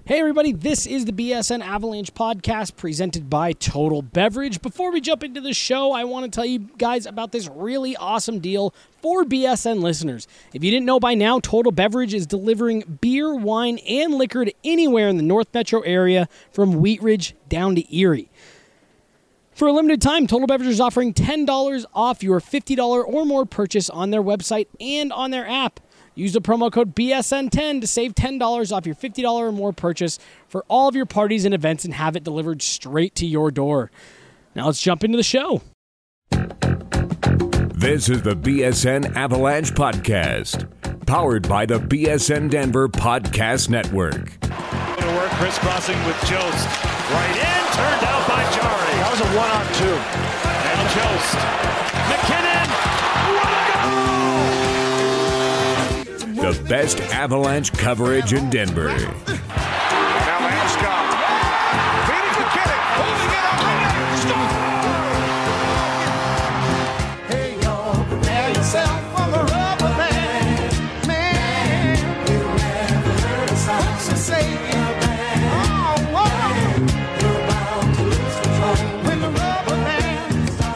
Hey everybody, this is the BSN Avalanche podcast presented by Total Beverage. Before we jump into the show, I want to tell you guys about this really awesome deal for BSN listeners. If you didn't know by now, Total Beverage is delivering beer, wine, and liquor to anywhere in the North Metro area from Wheat Ridge down to Erie. For a limited time, Total Beverage is offering $10 off your $50 or more purchase on their website and on their app. Use the promo code BSN10 to save $10 off your $50 or more purchase for all of your parties and events and have it delivered straight to your door. Now let's jump into the show. This is the BSN Avalanche Podcast, powered by the BSN Denver Podcast Network. To work, crisscrossing with Jost. Right in, turned out by Jari. That was a 1-on-2. Now Jost. McKinnon! What a goal! The best Avalanche coverage in Denver. Now Landeskog. Feeding McKinnon. Holding it up. Hey, y'all, prepare yourself for the rubber man. Man, you never heard a song so say it. Oh, whoa. You're bound to lose control when the rubber man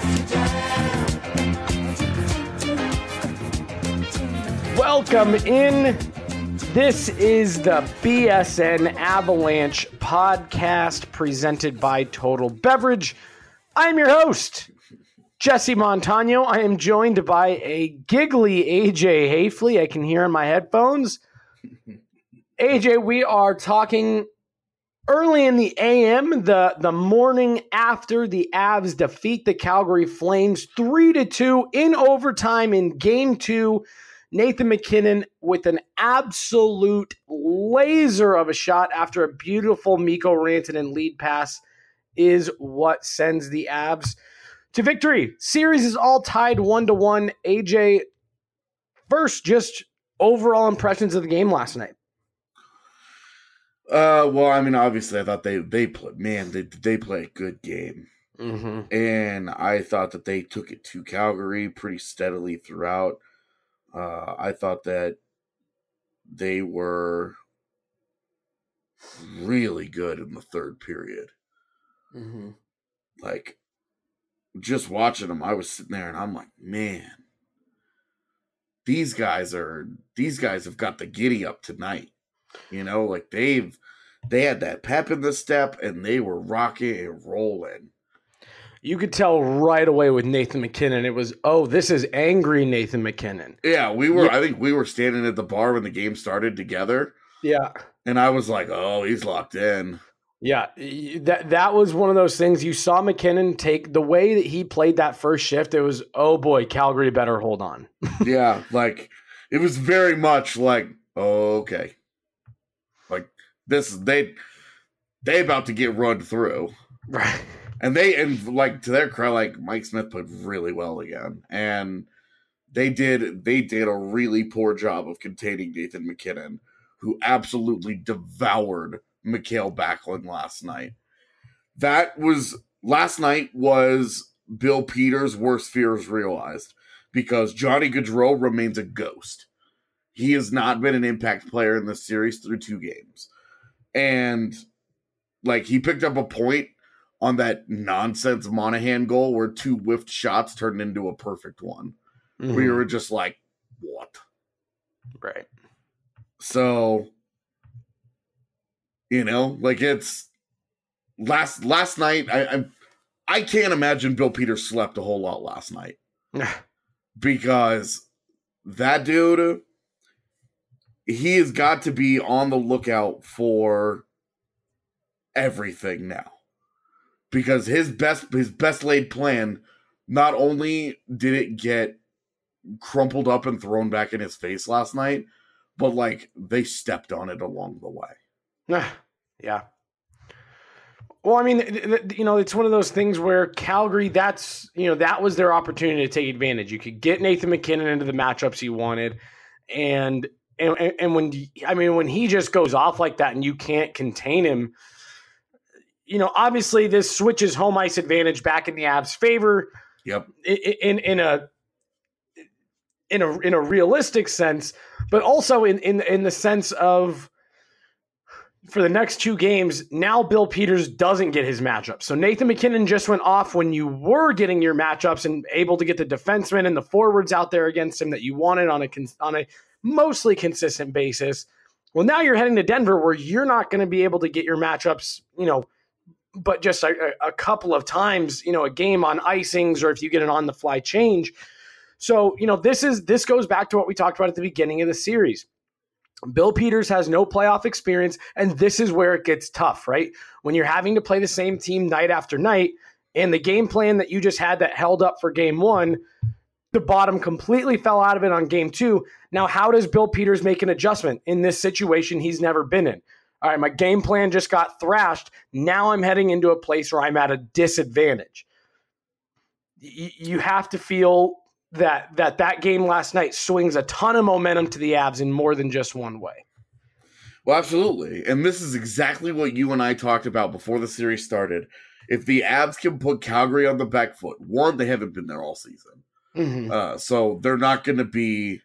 starts to jam. Welcome in. This is the BSN Avalanche podcast presented by Total Beverage. I'm your host, Jesse Montano. I am joined by a giggly AJ Hafley. I can hear in my headphones. AJ, we are talking early in the AM, the morning after the Avs defeat the Calgary Flames 3-2 in overtime in Game 2. Nathan MacKinnon with an absolute laser of a shot after a beautiful Mikko Rantanen lead pass is what sends the Avs to victory. Series is all tied 1-1. AJ, first, just overall impressions of the game last night. Well, I mean, obviously, I thought they play a good game. Mm-hmm. And I thought that they took it to Calgary pretty steadily throughout. I thought that they were really good in the third period. Mm-hmm. Like, just watching them, I was sitting there and I'm like, man, these guys have got the giddy up tonight. You know, like they had that pep in the step and they were rocking and rolling. You could tell right away with Nathan MacKinnon. It was, this is angry Nathan MacKinnon. Yeah, I think we were standing at the bar when the game started together. Yeah. And I was like, oh, he's locked in. Yeah, that was one of those things. You saw MacKinnon take the way that he played that first shift. It was, oh boy, Calgary better hold on. Yeah, like it was very much like, oh, okay. Like they about to get run through. Right. And like to their credit, like Mike Smith played really well again, and they did a really poor job of containing Nathan MacKinnon, who absolutely devoured Mikael Backlund last night. Last night was Bill Peters' worst fears realized because Johnny Gaudreau remains a ghost. He has not been an impact player in this series through 2 games, and like he picked up a point on that nonsense Monahan goal where 2 whiffed shots turned into a perfect one. Mm-hmm. We were just like, what? Right. So, you know, like it's last night. I can't imagine Bill Peters slept a whole lot last night because that dude, he has got to be on the lookout for everything now. Because his best laid plan, not only did it get crumpled up and thrown back in his face last night, but like they stepped on it along the way. Yeah. Well, I mean, it's one of those things where Calgary, that was their opportunity to take advantage. You could get Nathan MacKinnon into the matchups you wanted, and when he just goes off like that and you can't contain him. You know, obviously this switches home ice advantage back in the Avs' favor. Yep. In a realistic sense, but also in the sense of for the next 2 games, now Bill Peters doesn't get his matchup. So Nathan McKinnon just went off when you were getting your matchups and able to get the defensemen and the forwards out there against him that you wanted on a mostly consistent basis. Well, now you're heading to Denver where you're not going to be able to get your matchups, but just a couple of times, a game on icings, or if you get an on-the-fly change. So, this goes back to what we talked about at the beginning of the series. Bill Peters has no playoff experience, and this is where it gets tough, right? When you're having to play the same team night after night, and the game plan that you just had that held up for game 1, the bottom completely fell out of it on game 2. Now, how does Bill Peters make an adjustment in this situation he's never been in? All right, my game plan just got thrashed. Now I'm heading into a place where I'm at a disadvantage. You have to feel that game last night swings a ton of momentum to the Avs in more than just one way. Well, absolutely. And this is exactly what you and I talked about before the series started. If the Avs can put Calgary on the back foot, one, they haven't been there all season. Mm-hmm. So they're not going to be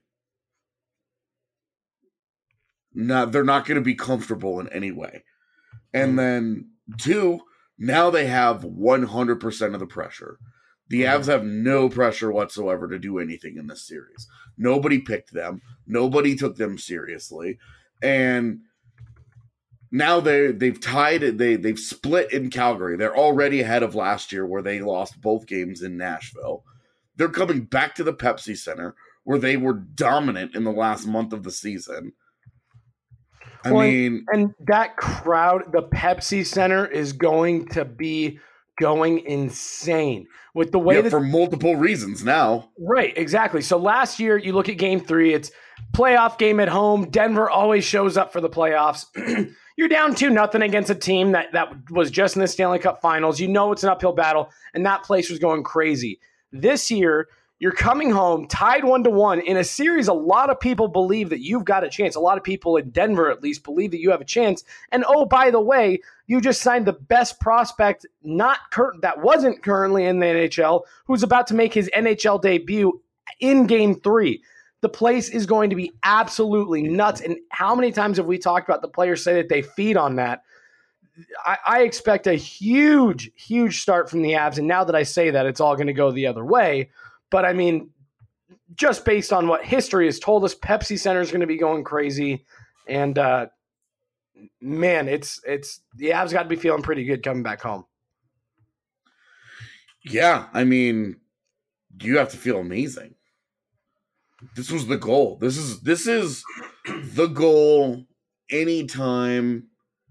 comfortable in any way. And then 2, now they have 100% of the pressure. The Avs have no pressure whatsoever to do anything in this series. Nobody picked them. Nobody took them seriously. And now they've tied it. They've split in Calgary. They're already ahead of last year where they lost both games in Nashville. They're coming back to the Pepsi Center where they were dominant in the last month of the season. And that crowd, the Pepsi Center, is going to be going insane with the way for multiple reasons now. Right, exactly. So last year, you look at game 3, it's playoff game at home. Denver always shows up for the playoffs. You're down 2-0 against a team that was just in the Stanley Cup Finals. You know it's an uphill battle, and that place was going crazy. This year, you're coming home tied 1-1 in a series. A lot of people believe that you've got a chance. A lot of people in Denver, at least, believe that you have a chance. And oh, by the way, you just signed the best prospect that wasn't currently in the NHL, who's about to make his NHL debut in Game 3. The place is going to be absolutely nuts. And how many times have we talked about the players say that they feed on that? I expect a huge, huge start from the Avs. And now that I say that, it's all going to go the other way. But I mean, just based on what history has told us, Pepsi Center is going to be going crazy. And man, it's the Avs got to be feeling pretty good coming back home. Yeah, I mean, you have to feel amazing. This was the goal. This is the goal anytime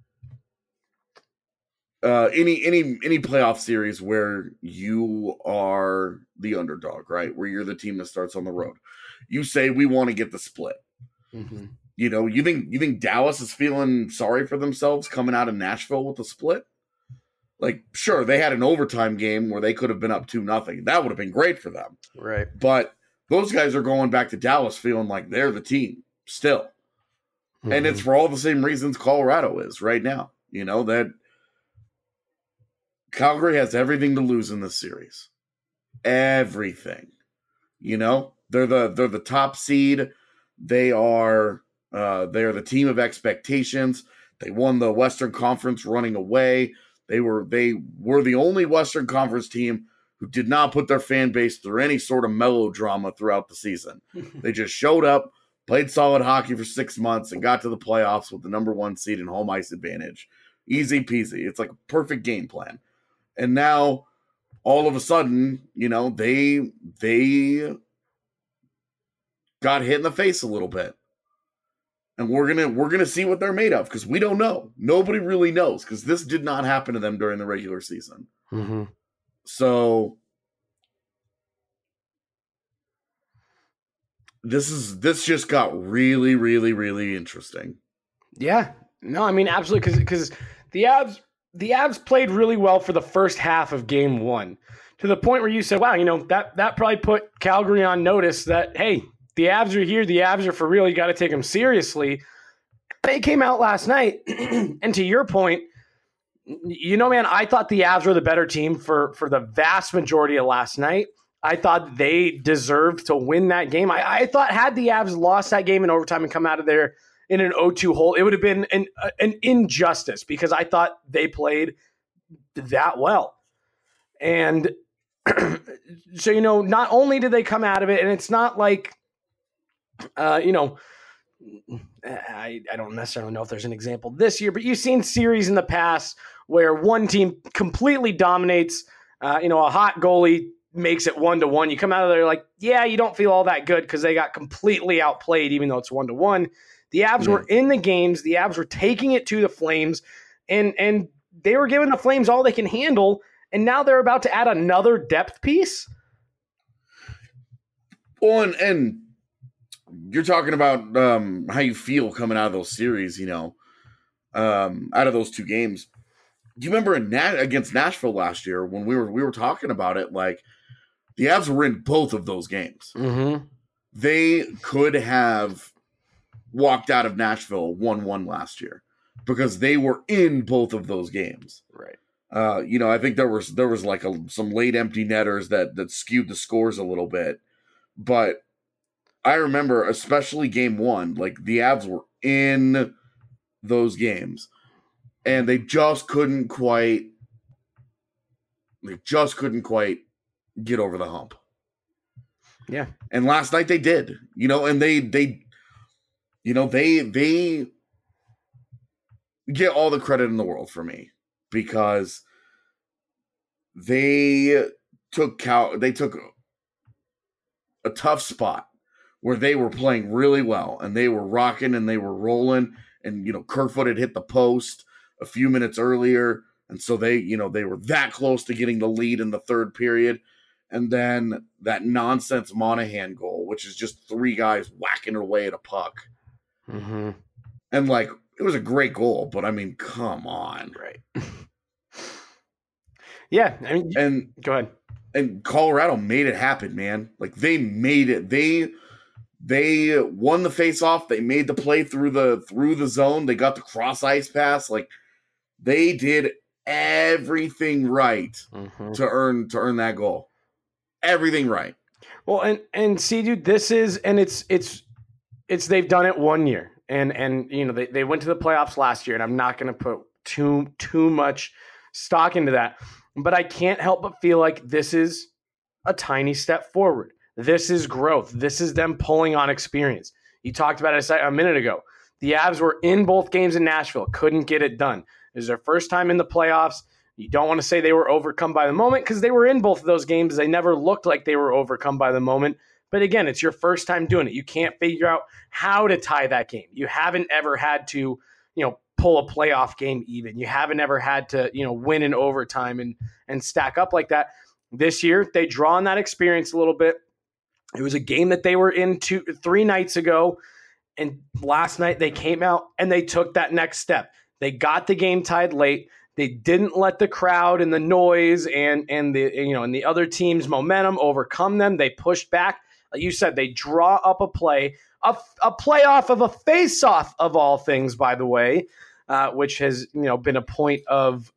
any playoff series where you are the underdog, right? Where you're the team that starts on the road. You say we want to get the split. Mm-hmm. You think Dallas is feeling sorry for themselves coming out of Nashville with the split? Like, sure, they had an overtime game where they could have been up 2-0. That would have been great for them. Right. But those guys are going back to Dallas feeling like they're the team still. Mm-hmm. And it's for all the same reasons Colorado is right now. That Calgary has everything to lose in this series. Everything. They're the top seed. They are the team of expectations. They won the Western Conference running away. They were the only Western Conference team who did not put their fan base through any sort of melodrama throughout the season. They just showed up, played solid hockey for 6 months, and got to the playoffs with the number 1 seed and home ice advantage. Easy peasy. It's like a perfect game plan. And now, all of a sudden, they got hit in the face a little bit. And we're gonna see what they're made of, because we don't know. Nobody really knows, because this did not happen to them during the regular season. Mm-hmm. So this just got really, really, really interesting. Yeah. No, I mean, absolutely, because the Avs played really well for the first half of Game 1, to the point where you said, wow, that probably put Calgary on notice that, hey, the Avs are here. The Avs are for real. You got to take them seriously. They came out last night, and to your point, man, I thought the Avs were the better team for the vast majority of last night. I thought they deserved to win that game. I thought had the Avs lost that game in overtime and come out of there in an 0-2 hole. It would have been an injustice because I thought they played that well. And so, not only did they come out of it, and it's not like, I don't necessarily know if there's an example this year, but you've seen series in the past where one team completely dominates, a hot goalie makes it 1-1. You come out of there like, yeah, you don't feel all that good because they got completely outplayed, even though it's 1-1. The Avs were in the games. The Avs were taking it to the Flames, and they were giving the Flames all they can handle. And now they're about to add another depth piece. Well, and you're talking about how you feel coming out of those series, out of those two games. Do you remember against Nashville last year when we were talking about it? Like, the Avs were in both of those games. Mm-hmm. They could have walked out of Nashville 1-1 last year because they were in both of those games. Right. I think there was like some late empty netters that skewed the scores a little bit, but I remember especially game one, like the Avs were in those games and they just couldn't quite get over the hump. Yeah. And last night they did, and they get all the credit in the world for me. Because they took a tough spot where they were playing really well and they were rocking and they were rolling and Kerfoot had hit the post a few minutes earlier and so they were that close to getting the lead in the third period, and then that nonsense Monahan goal, which is just three guys whacking away at a puck, and it was a great goal, but I mean, come on. Right. Yeah. I mean, and go ahead. And Colorado made it happen, man. Like they made it. They won the face-off. They made the play through the zone. They got the cross ice pass. Like they did everything right to earn that goal. Everything right. Well, and see, dude, this is, and it's they've done it 1 year. And they went to the playoffs last year, and I'm not going to put too much stock into that. But I can't help but feel like this is a tiny step forward. This is growth. This is them pulling on experience. You talked about it a minute ago. The Avs were in both games in Nashville, couldn't get it done. It was their first time in the playoffs. You don't want to say they were overcome by the moment because they were in both of those games. They never looked like they were overcome by the moment. But again, it's your first time doing it. You can't figure out how to tie that game. You haven't ever had to, pull a playoff game even. You haven't ever had to, win in overtime and stack up like that. This year, they draw on that experience a little bit. It was a game that they were in 3 nights ago. And last night they came out and they took that next step. They got the game tied late. They didn't let the crowd and the noise and the other team's momentum overcome them. They pushed back. Like you said, they draw up a play, a playoff of a face-off of all things, by the way, which has been a point of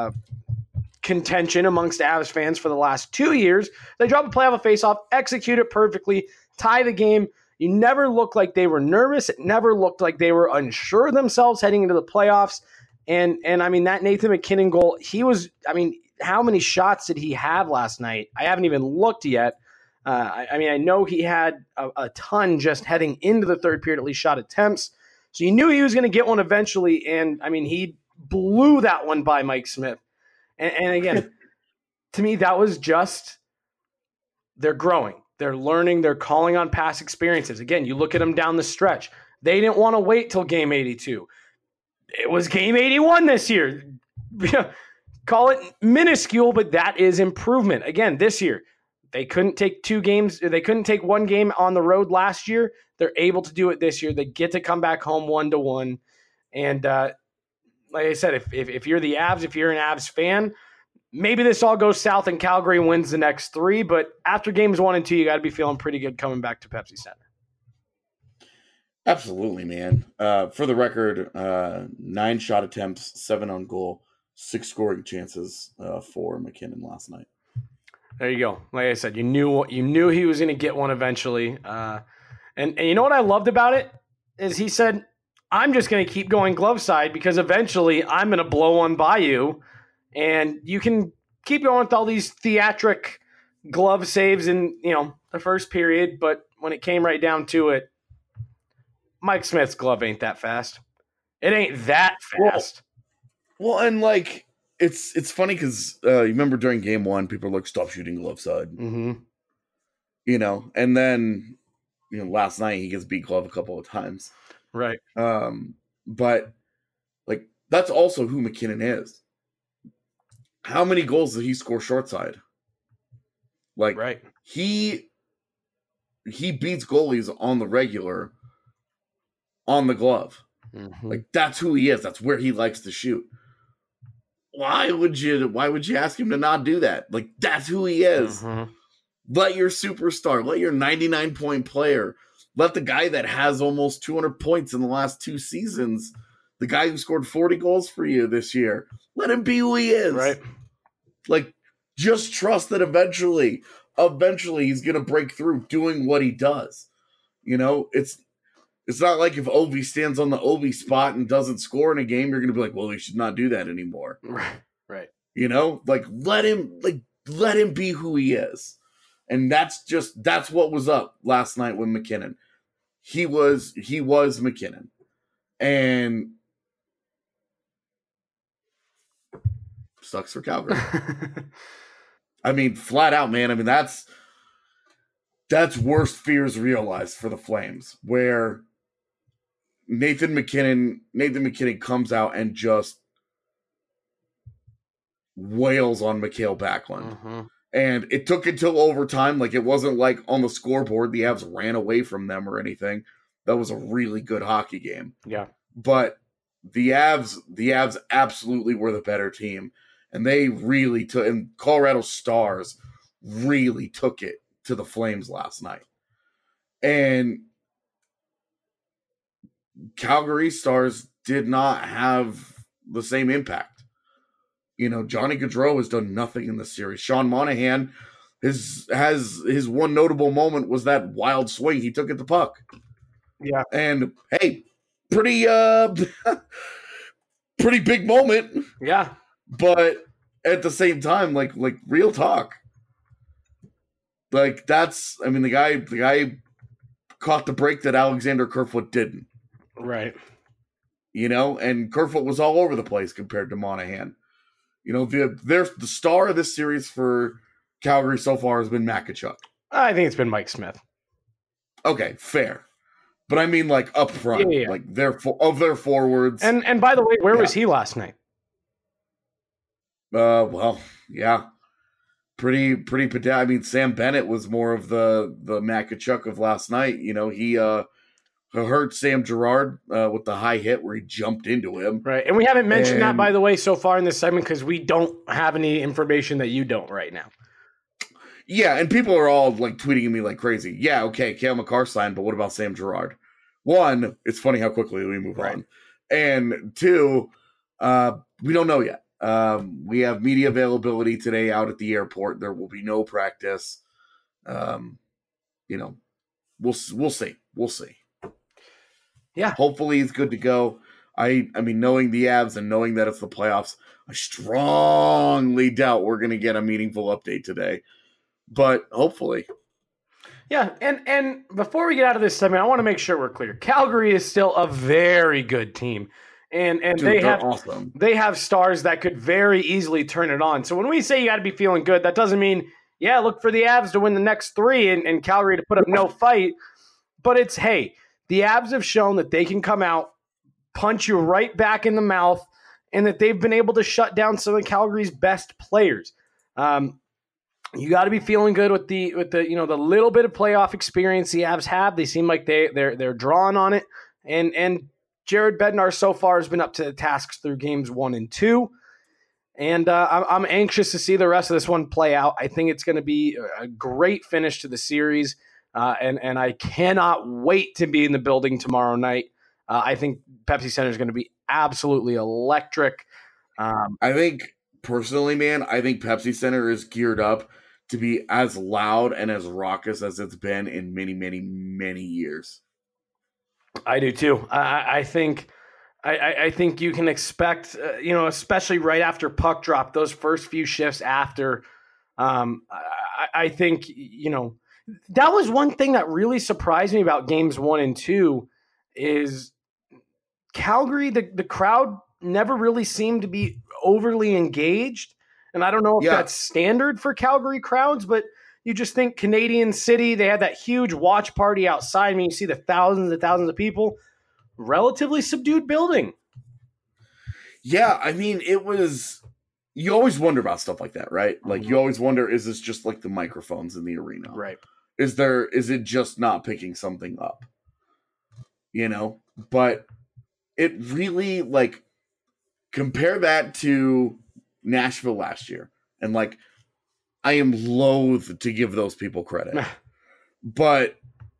contention amongst Avs fans for the last 2 years. They drop a play off a face-off, execute it perfectly, tie the game. You never looked like they were nervous. It never looked like they were unsure of themselves heading into the playoffs. And I mean, that Nathan MacKinnon goal, how many shots did he have last night? I haven't even looked yet. I know he had a ton just heading into the third period, at least shot attempts. So you knew he was going to get one eventually. And I mean, he blew that one by Mike Smith. And again, to me, that was just, they're growing. They're learning. They're calling on past experiences. Again, you look at them down the stretch. They didn't want to wait till game 82. It was game 81 this year. Call it minuscule, but that is improvement. Again, this year, they couldn't take 2 games. They couldn't take 1 game on the road last year. They're able to do it this year. They get to come back home 1-1. And like I said, if you're the Avs, if you're an Avs fan, maybe this all goes south and Calgary wins the next 3. But after games 1 and 2, you got to be feeling pretty good coming back to Pepsi Center. Absolutely, man. For the record, 9 shot attempts, 7 on goal, 6 scoring chances for MacKinnon last night. There you go. Like I said, you knew he was going to get one eventually. And you know what I loved about it is he said, I'm just going to keep going glove side because eventually I'm going to blow one by you, and you can keep going with all these theatric glove saves in, the first period. But when it came right down to it, Mike Smith's glove ain't that fast. It ain't that fast. Well, and like it's funny because you remember during game 1, people were like, "Stop shooting glove side," Mm-hmm. And then last night he gets beat glove a couple of times, Right. But like that's also who MacKinnon is. How many goals did he score short side? Like Right. he beats goalies on the regular on the glove. Mm-hmm. Like that's who he is. That's where he likes to shoot. Why would you ask him to not do that? Like that's who he is. Mm-hmm. Let your superstar, let your 99-point player, let the guy that has almost 200 points in the last 2 seasons, the guy who scored 40 goals for you this year, let him be who he is. Right. Like just trust that eventually he's going to break through doing what he does. It's not like if Ovi stands on the Ovi spot and doesn't score in a game, you're going to be like, well, he should not do that anymore. Right. Like let him be who he is. And that's what was up last night with MacKinnon. He was MacKinnon. And sucks for Calgary. I mean, flat out, man. I mean, that's worst fears realized for the Flames, where Nathan MacKinnon comes out and just wails on Mikael Backlund. Mm-hmm. And it took until overtime. Like, it wasn't like on the scoreboard the Avs ran away from them or anything. That was a really good hockey game. Yeah. But the Avs absolutely were the better team. And they really took, and Colorado Stars really took it to the Flames last night. And Calgary Stars did not have the same impact. Johnny Gaudreau has done nothing in the series. Sean Monahan has his one notable moment was that wild swing he took at the puck. Yeah. And hey, pretty big moment. Yeah. But at the same time, like real talk. Like the guy caught the break that Alexander Kerfoot didn't. Right. And Kerfoot was all over the place compared to Monahan. The star of this series for Calgary so far has been Matt Tkachuk. I think it's been Mike Smith. Okay, fair. But I mean, like up front, Yeah. like their forwards. And by the way, where was he last night? Well, yeah, pretty. I mean, Sam Bennett was more of the Matt Tkachuk of last night. He hurt Sam Girard with the high hit where he jumped into him. Right, and we haven't mentioned that, by the way, so far in this segment because we don't have any information that you don't right now. Yeah, and people are all like tweeting at me like crazy. Yeah, okay, Cale Makar signed, but what about Sam Girard? One, it's funny how quickly we move on. And two, we don't know yet. We have media availability today out at the airport. There will be no practice. We'll see. We'll see. Yeah. Hopefully he's good to go. I mean, knowing the Avs and knowing that it's the playoffs, I strongly doubt we're going to get a meaningful update today. But hopefully. Yeah, and before we get out of this segment, I want to make sure we're clear. Calgary is still a very good team. And Dude, they're awesome. They have stars that could very easily turn it on. So when we say you got to be feeling good, that doesn't mean, look for the Avs to win the next 3 and Calgary to put up no fight. But it's, hey, the Avs have shown that they can come out, punch you right back in the mouth, and that they've been able to shut down some of Calgary's best players. You got to be feeling good with the the little bit of playoff experience the Avs have. They seem like they're drawing on it, and Jared Bednar so far has been up to the tasks through games 1 and 2, and I'm anxious to see the rest of this one play out. I think it's going to be a great finish to the series. And I cannot wait to be in the building tomorrow night. I think Pepsi Center is going to be absolutely electric. I think, personally, man, Pepsi Center is geared up to be as loud and as raucous as it's been in many, many, many years. I do too. I think you can expect, especially right after puck drop, those first few shifts after. I think, that was one thing that really surprised me about games 1 and 2 is Calgary, the crowd never really seemed to be overly engaged. And I don't know if that's standard for Calgary crowds, but you just think Canadian City, they had that huge watch party outside. I mean, you see the thousands and thousands of people, relatively subdued building. Yeah, I mean, you always wonder about stuff like that, right? Like, you always wonder, is this just like the microphones in the arena? Right. Is it just not picking something up? But it really, like, compare that to Nashville last year. And, like, I am loath to give those people credit. But,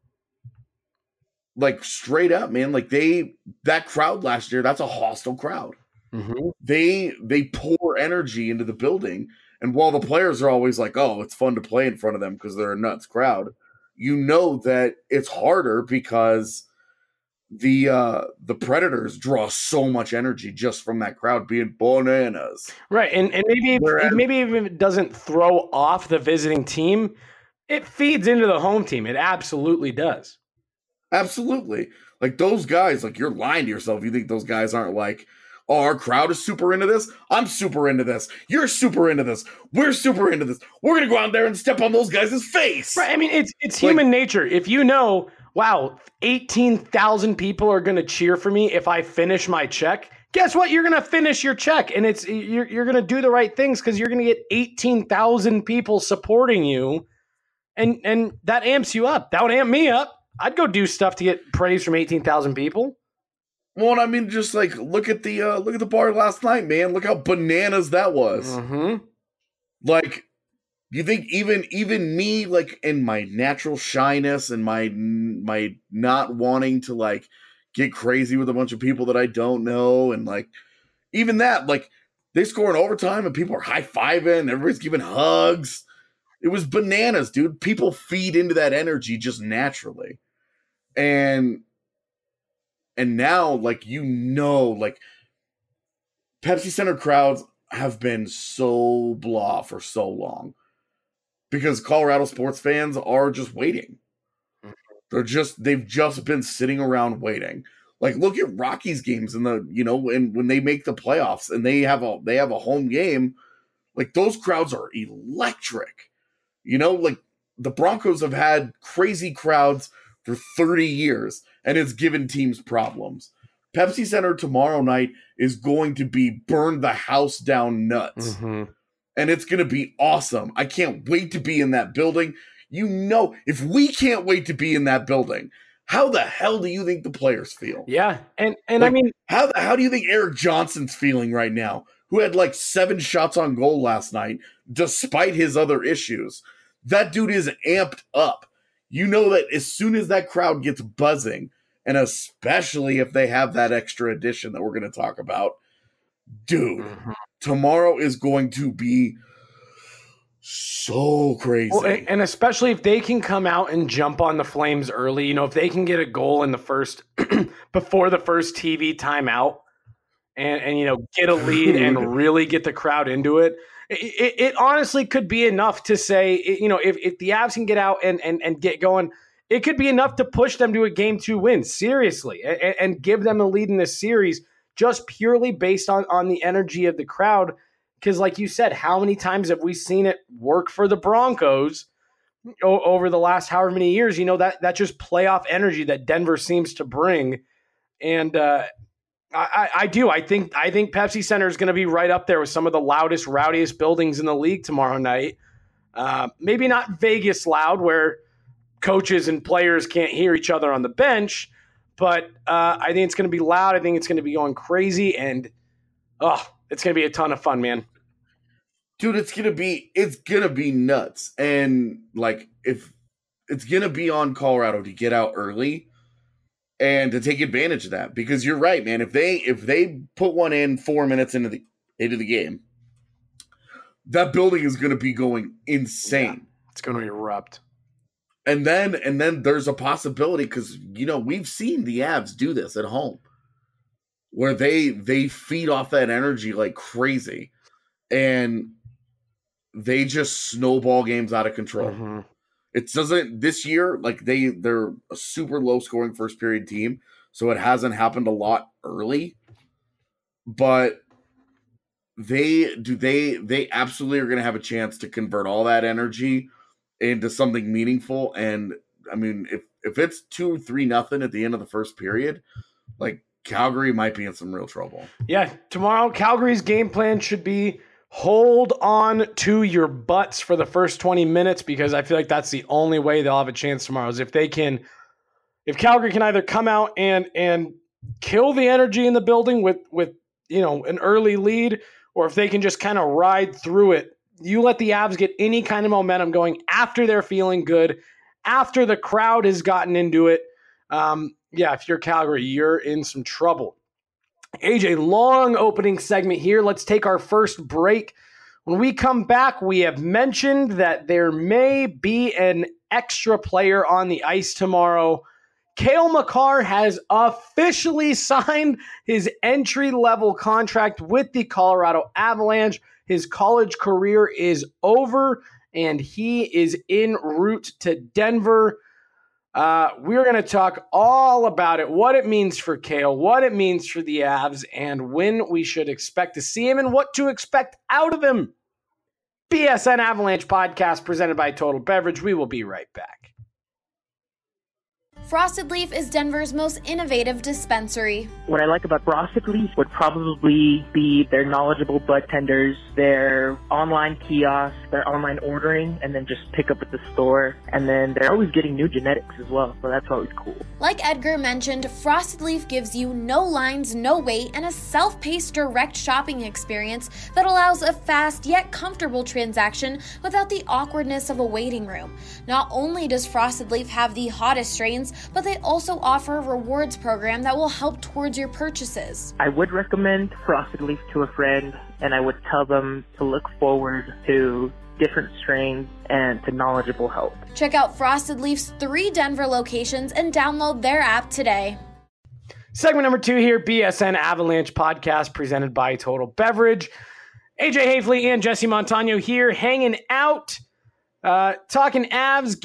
like, straight up, man, like, that crowd last year, that's a hostile crowd. Mm-hmm. They pour energy into the building. And while the players are always like, oh, it's fun to play in front of them because they're a nuts crowd, you know that it's harder because the Predators draw so much energy just from that crowd being bananas. Right. And maybe even if it doesn't throw off the visiting team, it feeds into the home team. It absolutely does. Absolutely. Like, those guys, like, you're lying to yourself. You think those guys aren't like, oh, our crowd is super into this. I'm super into this. You're super into this. We're super into this. We're going to go out there and step on those guys' face. Right. I mean, it's human nature. If wow, 18,000 people are going to cheer for me if I finish my check, guess what? You're going to finish your check, and you're going to do the right things because you're going to get 18,000 people supporting you, and that amps you up. That would amp me up. I'd go do stuff to get praise from 18,000 people. Well, I mean, just like look at the bar last night, man. Look how bananas that was. Mm-hmm. Like, you think even me, like, in my natural shyness and my not wanting to, like, get crazy with a bunch of people that I don't know, and, like, even that, like, they score in overtime and people are high-fiving, everybody's giving hugs. It was bananas, dude. People feed into that energy just naturally. And now, like, like, Pepsi Center crowds have been so blah for so long because Colorado sports fans are just waiting. They've just been sitting around waiting. Like, look at Rockies games and when they make the playoffs and they have a home game, like, those crowds are electric. Like, the Broncos have had crazy crowds for 30 years, and it's given teams problems. Pepsi Center tomorrow night is going to be burn the house down nuts. Mm-hmm. And it's going to be awesome. I can't wait to be in that building. If we can't wait to be in that building, how the hell do you think the players feel? Yeah. And like, I mean, how do you think Eric Johnson's feeling right now, who had like 7 shots on goal last night, despite his other issues? That dude is amped up. You know that as soon as that crowd gets buzzing, and especially if they have that extra addition that we're going to talk about, dude, tomorrow is going to be so crazy. Well, and especially if they can come out and jump on the Flames early, if they can get a goal in the first, before the first TV timeout and get a lead and really get the crowd into it. It honestly could be enough to say, if the Avs can get out and get going, it could be enough to push them to a Game 2 win, seriously, and give them a lead in this series just purely based on the energy of the crowd. Because like you said, how many times have we seen it work for the Broncos over the last however many years? That just playoff energy that Denver seems to bring. And I do. I think Pepsi Center is going to be right up there with some of the loudest, rowdiest buildings in the league tomorrow night. Maybe not Vegas loud, where coaches and players can't hear each other on the bench, but I think it's going to be loud. I think it's going to be going crazy, and it's going to be a ton of fun, man. Dude, it's going to be nuts. And like, if it's going to be on Colorado to get out early and to take advantage of that, because you're right, man. If they put one in 4 minutes into the game, that building is going to be going insane. Yeah, it's going to erupt. And then there's a possibility, because we've seen the Avs do this at home, where they feed off that energy like crazy, and they just snowball games out of control. Mm-hmm. It doesn't this year, like they're a super low scoring first period team, so it hasn't happened a lot early. But they absolutely are going to have a chance to convert all that energy into something meaningful. And I mean, if it's 2-3-0 at the end of the first period, like, Calgary might be in some real trouble. Yeah, tomorrow Calgary's game plan should be hold on to your butts for the first 20 minutes, because I feel like that's the only way they'll have a chance tomorrow, is if Calgary can either come out and kill the energy in the building with an early lead, or if they can just kind of ride through it. You let the Avs get any kind of momentum going after they're feeling good, after the crowd has gotten into it. If you're Calgary, you're in some trouble. AJ, long opening segment here. Let's take our first break. When we come back, we have mentioned that there may be an extra player on the ice tomorrow. Cale Makar has officially signed his entry-level contract with the Colorado Avalanche. His college career is over, and he is en route to Denver. We're going to talk all about it, what it means for Cale, what it means for the Avs, and when we should expect to see him and what to expect out of him. BSN Avalanche podcast presented by Total Beverage. We will be right back. Frosted Leaf is Denver's most innovative dispensary. What I like about Frosted Leaf would probably be their knowledgeable bud tenders, their online kiosks, their online ordering, and then just pick up at the store. And then they're always getting new genetics as well, so that's always cool. Like Edgar mentioned, Frosted Leaf gives you no lines, no wait, and a self-paced direct shopping experience that allows a fast yet comfortable transaction without the awkwardness of a waiting room. Not only does Frosted Leaf have the hottest strains, but they also offer a rewards program that will help towards your purchases. I would recommend Frosted Leaf to a friend, and I would tell them to look forward to different strains and to knowledgeable help. Check out Frosted Leaf's 3 Denver locations and download their app today. Segment number 2 here, BSN Avalanche podcast presented by Total Beverage. AJ Hafley and Jesse Montano here hanging out, talking Avs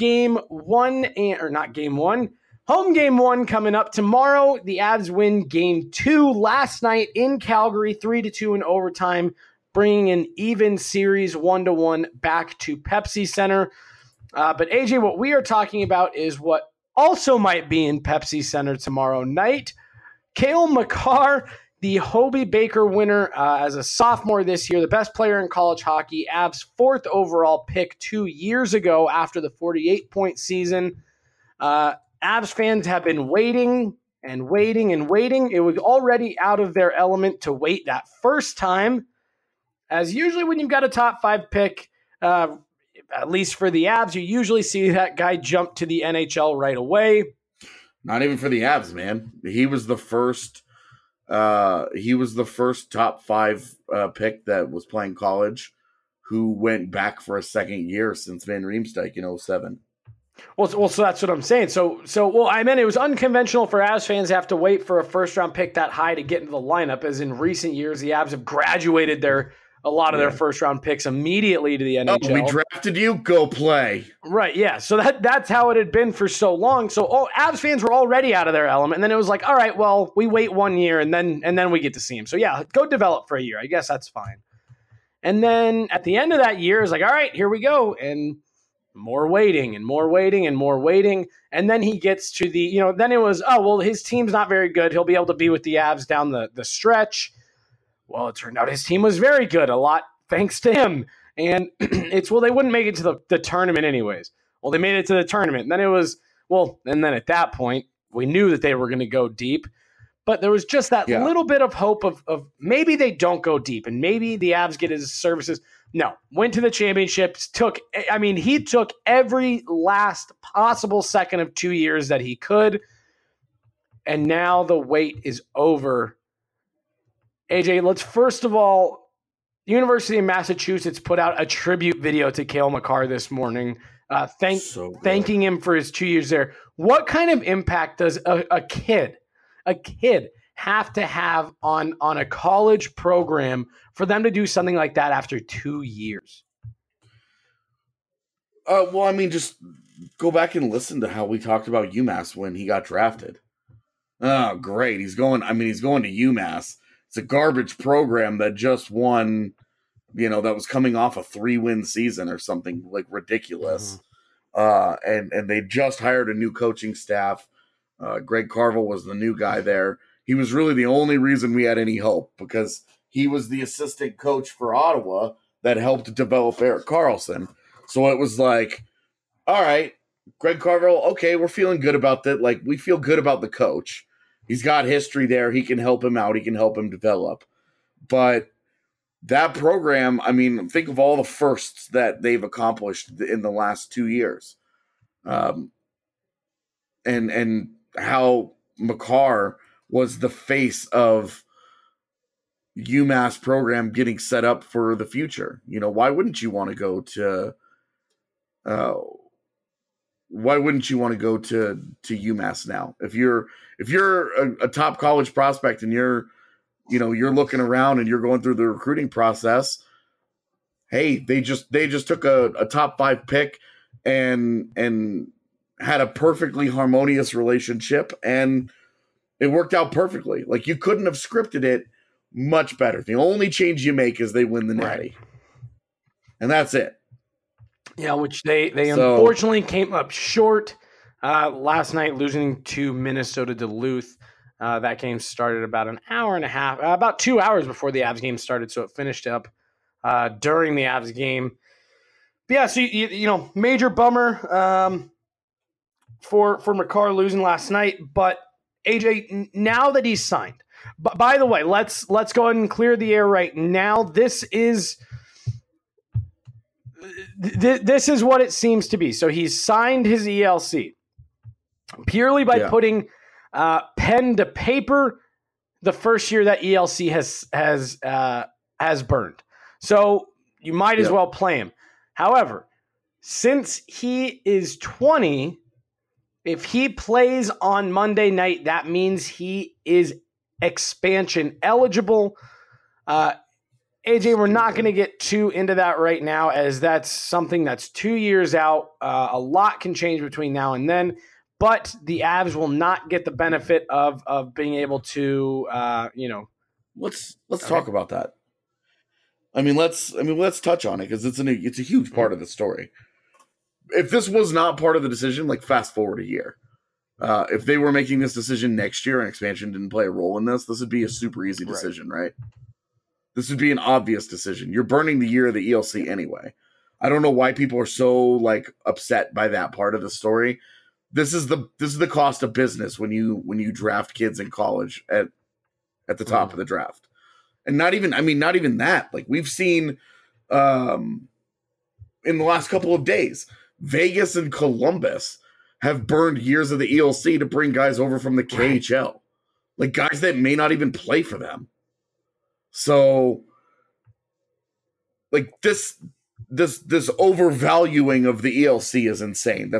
home game 1 coming up tomorrow. The Avs win game 2 last night in Calgary, 3-2 in overtime, bringing an even series 1-1 back to Pepsi Center. But AJ, what we are talking about is what also might be in Pepsi Center tomorrow night. Cale Makar, the Hobey Baker winner as a sophomore this year, the best player in college hockey, Avs' 4th overall pick 2 years ago after the 48-point season. Avs fans have been waiting and waiting and waiting. It was already out of their element to wait that first time, as usually when you've got a top 5 pick, at least for the Avs, you usually see that guy jump to the NHL right away. Not even for the Avs, man. He was the first top 5 pick that was playing college who went back for a second year since Van Riemsdyk in 2007. Well, so that's what I'm saying. So I meant it was unconventional for Avs fans to have to wait for a first-round pick that high to get into the lineup, as in recent years, the Avs have graduated a lot of their first-round picks immediately to the NHL. Oh, we drafted you? Go play. Right, yeah. So that's how it had been for so long. So Avs fans were already out of their element, and then it was like, all right, well, we wait 1 year, and then we get to see him. So, yeah, go develop for a year. I guess that's fine. And then at the end of that year, it's like, all right, here we go, and more waiting and more waiting and more waiting. And then he gets to then it was, oh, well, his team's not very good. He'll be able to be with the Avs down the stretch. Well, it turned out his team was very good, a lot thanks to him. And they wouldn't make it to the tournament anyways. Well, they made it to the tournament. And then it was, and then at that point, we knew that they were going to go deep. But there was just that little bit of hope of maybe they don't go deep and maybe the Avs get his services. No, went to the championships, he took every last possible second of 2 years that he could. And now the wait is over. AJ, let's first of all, the University of Massachusetts put out a tribute video to Cale Makar this morning. thanking him for his 2 years there. What kind of impact does a kid have to have on a college program for them to do something like that after 2 years? Well, I mean, just go back and listen to how we talked about UMass when he got drafted. Oh, great. He's going to UMass. It's a garbage program that just won, that was coming off a 3-win season or something like ridiculous. And they just hired a new coaching staff. Greg Carvel was the new guy there. He was really the only reason we had any hope because he was the assistant coach for Ottawa that helped develop Erik Karlsson. So it was like, all right, Greg Carvel, okay, we're feeling good about that. Like, we feel good about the coach. He's got history there. He can help him out. He can help him develop. But that program, I mean, think of all the firsts that they've accomplished in the last 2 years. And how Makar was the face of UMass program getting set up for the future. Why wouldn't you want to go to UMass now? If you're a top college prospect and you're looking around and you're going through the recruiting process, hey, they just took a top 5 pick and had a perfectly harmonious relationship, and it worked out perfectly. Like, you couldn't have scripted it much better. The only change you make is they win the Natty. And that's it. Yeah, which they unfortunately came up short last night, losing to Minnesota Duluth. That game started about an hour and a half, about 2 hours before the Avs game started, so it finished up during the Avs game. But yeah, so major bummer for Makar losing last night. But AJ, now that he's signed, by the way, let's go ahead and clear the air right now. This is what it seems to be. So he's signed his ELC purely by putting pen to paper the first year that ELC has burned. So you might as well play him. However, since he is 20, if he plays on Monday night, that means he is expansion eligible. AJ, we're not going to get too into that right now, as that's something that's 2 years out. A lot can change between now and then, but the Avs will not get the benefit of being able to, Let's talk about that. Let's touch on it because it's a huge part of the story. If this was not part of the decision, like, fast forward a year. If they were making this decision next year and expansion didn't play a role in this would be a super easy decision, right? This would be an obvious decision. You're burning the year of the ELC anyway. I don't know why people are so upset by that part of the story. This is the cost of business when you draft kids in college at the top of the draft. And not even that. Like, we've seen in the last couple of days, Vegas and Columbus have burned years of the ELC to bring guys over from the KHL. Like, guys that may not even play for them. So, like, this overvaluing of the ELC is insane.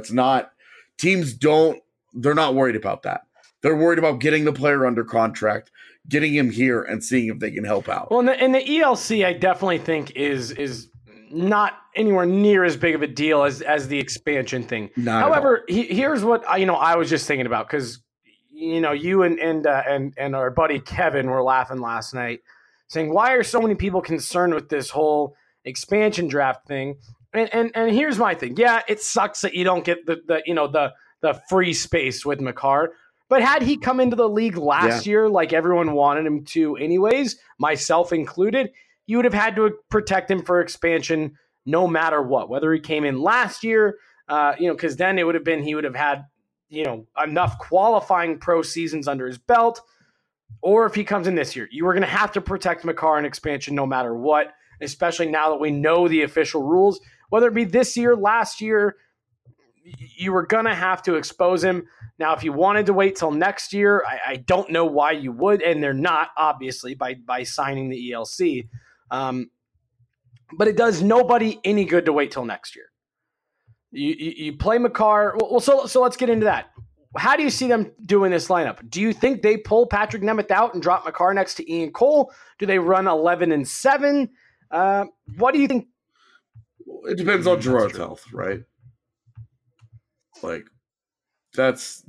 They're not worried about that. They're worried about getting the player under contract, getting him here, and seeing if they can help out. Well, and the ELC, I definitely think is not anywhere near as big of a deal as the expansion thing. However, here's what I was just thinking about, because you and our buddy Kevin were laughing last night, saying, why are so many people concerned with this whole expansion draft thing? And here's my thing. Yeah, it sucks that you don't get the free space with Makar. But had he come into the league last year like everyone wanted him to anyways, myself included, you would have had to protect him for expansion no matter what. Whether he came in last year, because then he would have had enough qualifying pro seasons under his belt. Or if he comes in this year, you were going to have to protect Makar in expansion no matter what, especially now that we know the official rules. Whether it be this year, last year, you were going to have to expose him. Now, if you wanted to wait till next year, I don't know why you would, and they're not, obviously, by signing the ELC. But it does nobody any good to wait till next year. You play Makar. Well, so let's get into that. How do you see them doing this lineup? Do you think they pull Patrick Nemeth out and drop Makar next to Ian Cole? Do they run 11 and 7? What do you think? It depends on Gerard's health, right? Like that's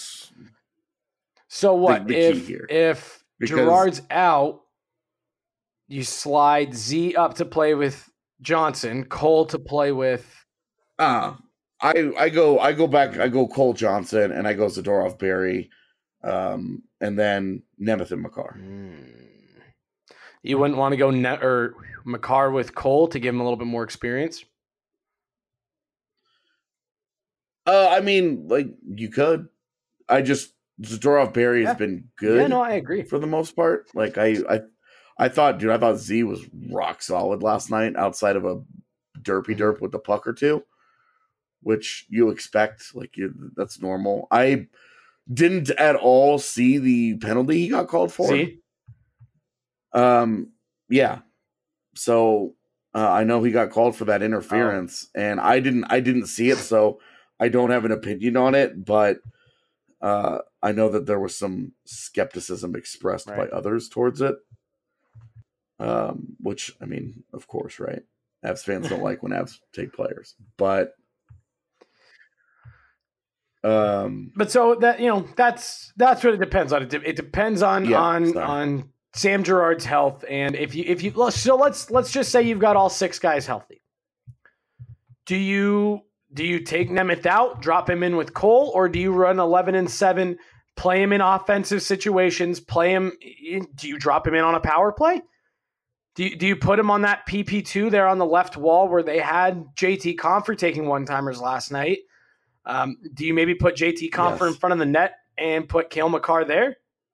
so what the key here. If Gerard's out, you slide Z up to play with Johnson, Cole to play with. I go Cole Johnson and I go Zadorov Berry, and then Nemeth and Makar. You wouldn't want to go or Makar with Cole to give him a little bit more experience? I mean, like you could. Zadorov Berry has been good. Yeah, no, I agree for the most part. Like I thought Z was rock solid last night outside of a derp with the puck or two, which you expect. That's normal. I didn't at all see the penalty he got called for. See? Yeah. So I know he got called for that interference, and I didn't see it, so I don't have an opinion on it. But I know that there was some skepticism expressed by others towards it. Which, I mean, of course, right? Avs fans don't like when Avs take players, but so that that's what it depends on. It depends on Sam Girard's health, and if you let's just say you've got all 6 guys healthy. Do you take Nemeth out, drop him in with Cole, or do you run 11 and 7, play him in offensive situations, play him? Do you drop him in on a power play? Do you put him on that PP2 there on the left wall where they had JT Compher taking one-timers last night? Do you maybe put JT Compher in front of the net and put Cale Makar there?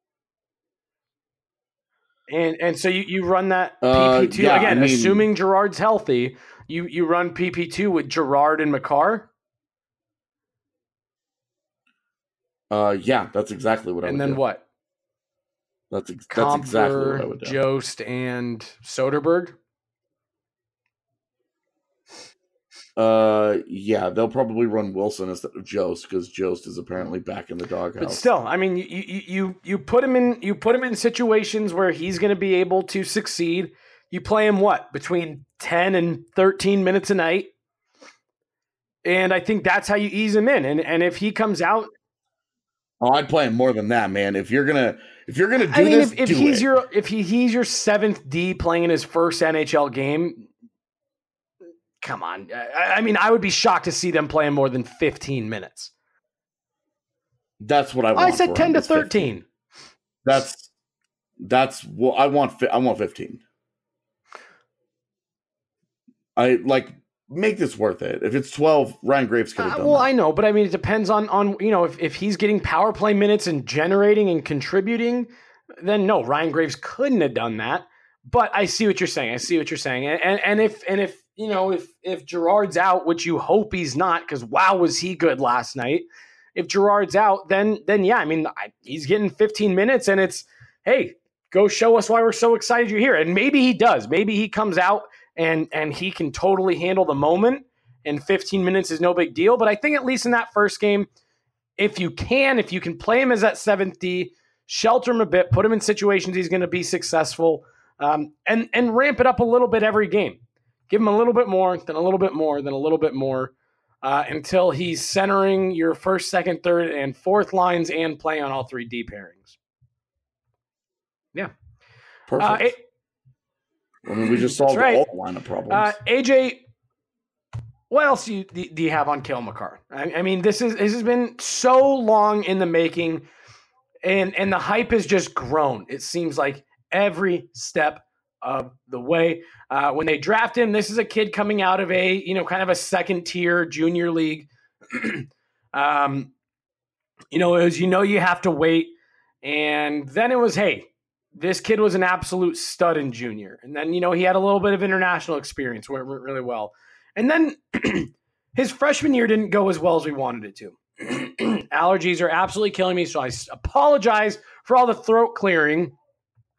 And so you run that PP2 again, assuming Girard's healthy. You run PP2 with Girard and Makar. Yeah, that's exactly what I would do. And then what? That's exactly what I would do. Jost and Soderberg. Yeah, they'll probably run Wilson instead of Jost because Jost is apparently back in the doghouse. But still, I mean, you put him in situations where he's going to be able to succeed. You play him between 10 and 13 minutes a night, and I think that's how you ease him in. And if he comes out, I'd play him more than that, man. If you're gonna do this, if he's your 7th D playing in his first NHL game. Come on. I mean, I would be shocked to see them playing more than 15 minutes. That's what I want. I said 10 to 13. 15. That's what I want. I want 15. I make this worth it. If it's 12, Ryan Graves could have done that. I know, but I mean, it depends on if he's getting power play minutes and generating and contributing, then no, Ryan Graves couldn't have done that. But I see what you're saying. And if Girard's out, which you hope he's not, because wow, was he good last night. If Girard's out, then yeah, I mean, he's getting 15 minutes, and it's, hey, go show us why we're so excited you're here. And maybe he does. Maybe he comes out and he can totally handle the moment, and 15 minutes is no big deal. But I think at least in that first game, if you can play him as that 7th D, shelter him a bit, put him in situations he's going to be successful. And ramp it up a little bit every game. Give him a little bit more, then a little bit more, then a little bit more, until he's centering your 1st, 2nd, 3rd, and 4th lines and playing on all 3 D pairings. Yeah. Perfect. We just solved all the lineup problems. AJ, what else do you have on Cale Makar? I mean, this has been so long in the making, and the hype has just grown. It seems like every step of the way. When they draft him, this is a kid coming out of a, kind of a 2nd-tier junior league. It was, you have to wait. And then it was, hey, this kid was an absolute stud in junior. And then, he had a little bit of international experience where it went really well. And then his freshman year didn't go as well as we wanted it to. Allergies are absolutely killing me, so I apologize for all the throat clearing.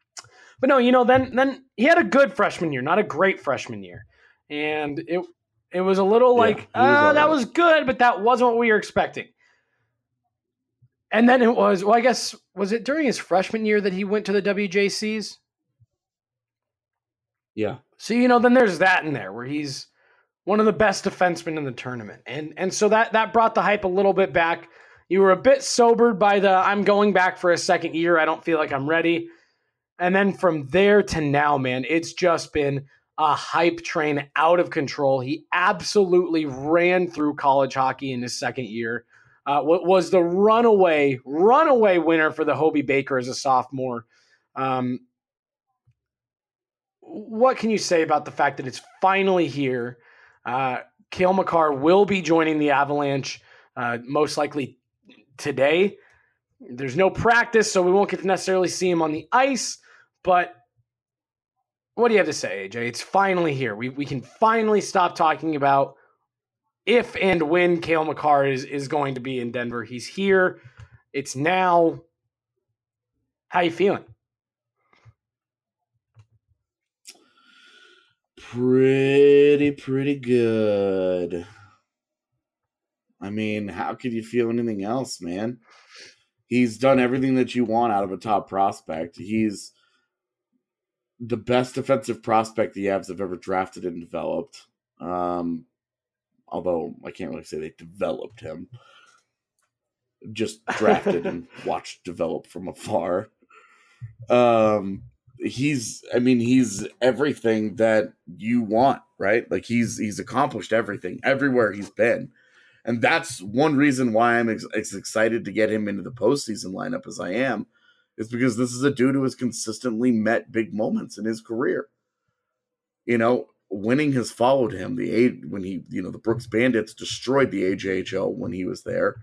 But no, then he had a good freshman year, not a great freshman year. And It was a little like, that was good, but that wasn't what we were expecting. And then it was, I guess, was it during his freshman year that he went to the WJCs? Yeah. So, then there's that in there where he's one of the best defensemen in the tournament. And so that brought the hype a little bit back. You were a bit sobered by I'm going back for a second year. I don't feel like I'm ready. And then from there to now, man, it's just been a hype train out of control. He absolutely ran through college hockey in his second year. Was the runaway winner for the Hobey Baker as a sophomore. What can you say about the fact that it's finally here? Cale Makar will be joining the Avalanche most likely today. There's no practice, so we won't get to necessarily see him on the ice, but what do you have to say, AJ? It's finally here. We can finally stop talking about if and when Cale Makar is going to be in Denver. He's here. It's now. How you feeling? Pretty good. I mean, how could you feel anything else, man? He's done everything that you want out of a top prospect. He's the best defensive prospect the Avs have ever drafted and developed. Although I can't really say they developed him. Just drafted and watched develop from afar. He's everything that you want, right? Like he's accomplished everything everywhere he's been. And that's one reason why I'm as excited to get him into the postseason lineup as I am, is because this is a dude who has consistently met big moments in his career. Winning has followed him. The Brooks Bandits destroyed the AJHL when he was there.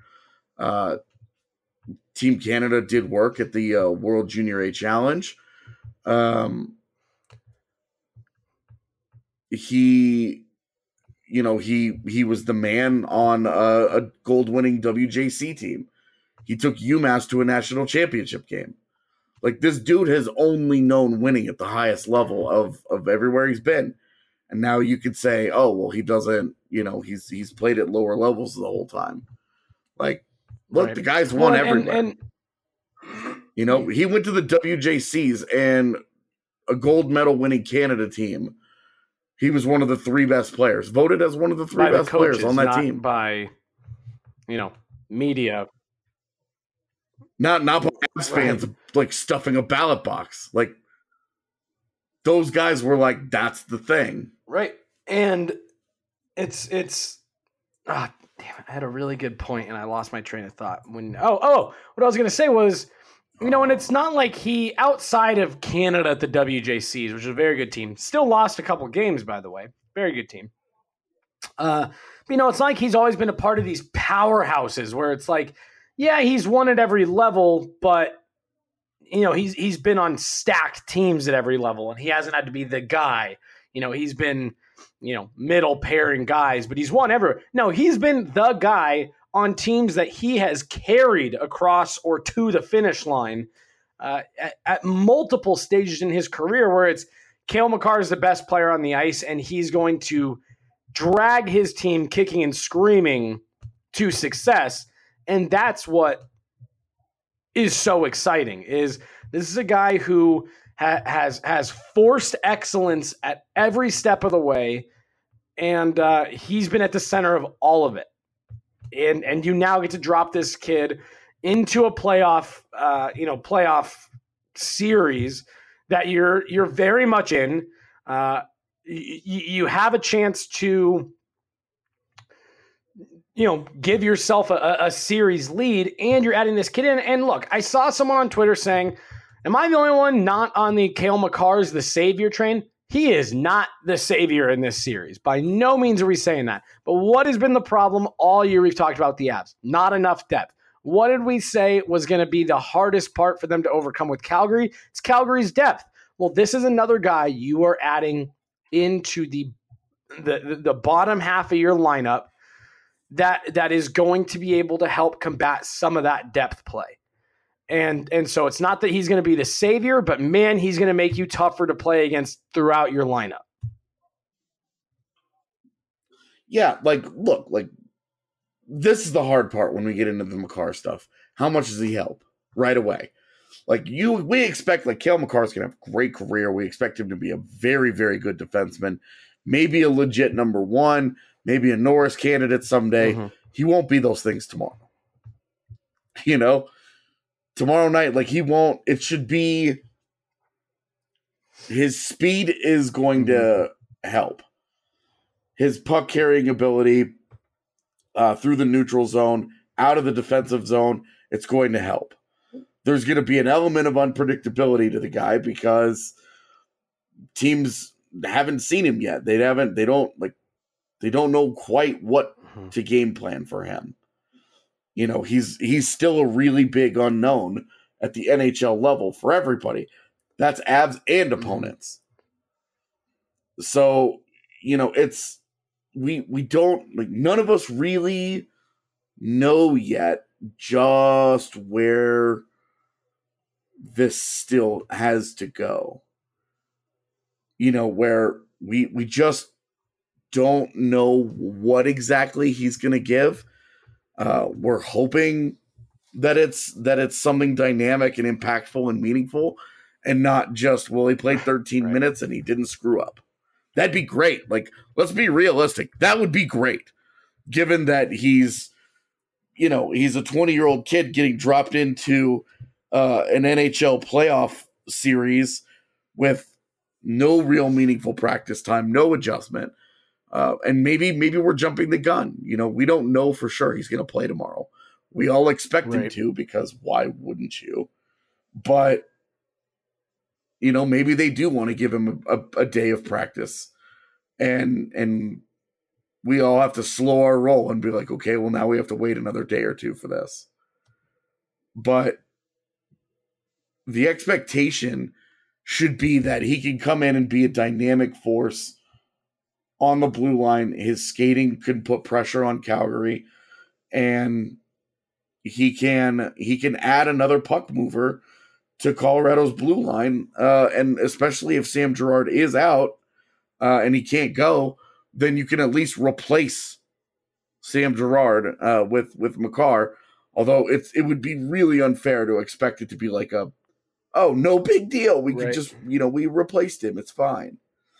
Team Canada did work at the World Junior A Challenge. He was the man on a gold-winning WJC team. He took UMass to a national championship game. Like, this dude has only known winning at the highest level of everywhere he's been. And now you could say, oh, well, he doesn't, he's played at lower levels the whole time. Like, look, right. The guy's won everywhere. He went to the WJCs and a gold medal winning Canada team. He was one of the three best players, voted as one of the three best players on that team. By, media. Not by fans, like stuffing a ballot box. Like, those guys were like, that's the thing. Right. And it's damn it, I had a really good point and I lost my train of thought. What I was going to say was, and it's not like he, outside of Canada at the WJCs, which is a very good team, still lost a couple games, by the way. Very good team. It's not like he's always been a part of these powerhouses where it's like, yeah, he's won at every level, but he's been on stacked teams at every level, and he hasn't had to be the guy. He's been, middle pairing guys, but he's won everywhere. No, he's been the guy on teams that he has carried across or to the finish line at multiple stages in his career, where it's Cale Makar is the best player on the ice, and he's going to drag his team kicking and screaming to success. And that's what is so exciting. Is this is a guy who has forced excellence at every step of the way, and he's been at the center of all of it. And you now get to drop this kid into a playoff series that you're very much in. You have a chance to give yourself a series lead, and you're adding this kid in. And look, I saw someone on Twitter saying, am I the only one not on the Cale Makar's the savior train? He is not the savior in this series. By no means are we saying that. But what has been the problem all year we've talked about the Avs? Not enough depth. What did we say was going to be the hardest part for them to overcome with Calgary? It's Calgary's depth. Well, this is another guy you are adding into the bottom half of your lineup that is going to be able to help combat some of that depth play. And so it's not that he's going to be the savior, but man, he's going to make you tougher to play against throughout your lineup. Yeah, like, look, like, this is the hard part when we get into the Makar stuff. How much does he help right away? Like, we expect, like, Cale Makar's going to have a great career. We expect him to be a very, very good defenseman. Maybe a legit number one, maybe a Norris candidate someday. Mm-hmm. He won't be those things tomorrow. You know? Tomorrow night, like, he won't. It should be his speed is going to help. His puck carrying ability through the neutral zone, out of the defensive zone, it's going to help. There's going to be an element of unpredictability to the guy because teams haven't seen him yet. They don't know quite what to game plan for him. You know, he's still a really big unknown at the NHL level for everybody. That's Avs and opponents. So, you know, it's we don't, like, none of us really know yet just where this still has to go. You know, where we just don't know what exactly he's going to give. We're hoping that it's something dynamic and impactful and meaningful, and not just, well, he played 13 minutes and he didn't screw up. That'd be great. Like, let's be realistic. That would be great, given that he's a 20-year-old kid getting dropped into an NHL playoff series with no real meaningful practice time, no adjustment. And maybe we're jumping the gun. You know, we don't know for sure he's going to play tomorrow. We all expect him to, because why wouldn't you? But, you know, maybe they do want to give him a day of practice, and we all have to slow our roll and be like, okay, well, now we have to wait another day or two for this. But the expectation should be that he can come in and be a dynamic force on the blue line. His skating can put pressure on Calgary, and he can add another puck mover to Colorado's blue line. And especially if Sam Girard is out and he can't go, then you can at least replace Sam Girard with Makar. Although it would be really unfair to expect it to be like no big deal. We could just, we replaced him. It's fine.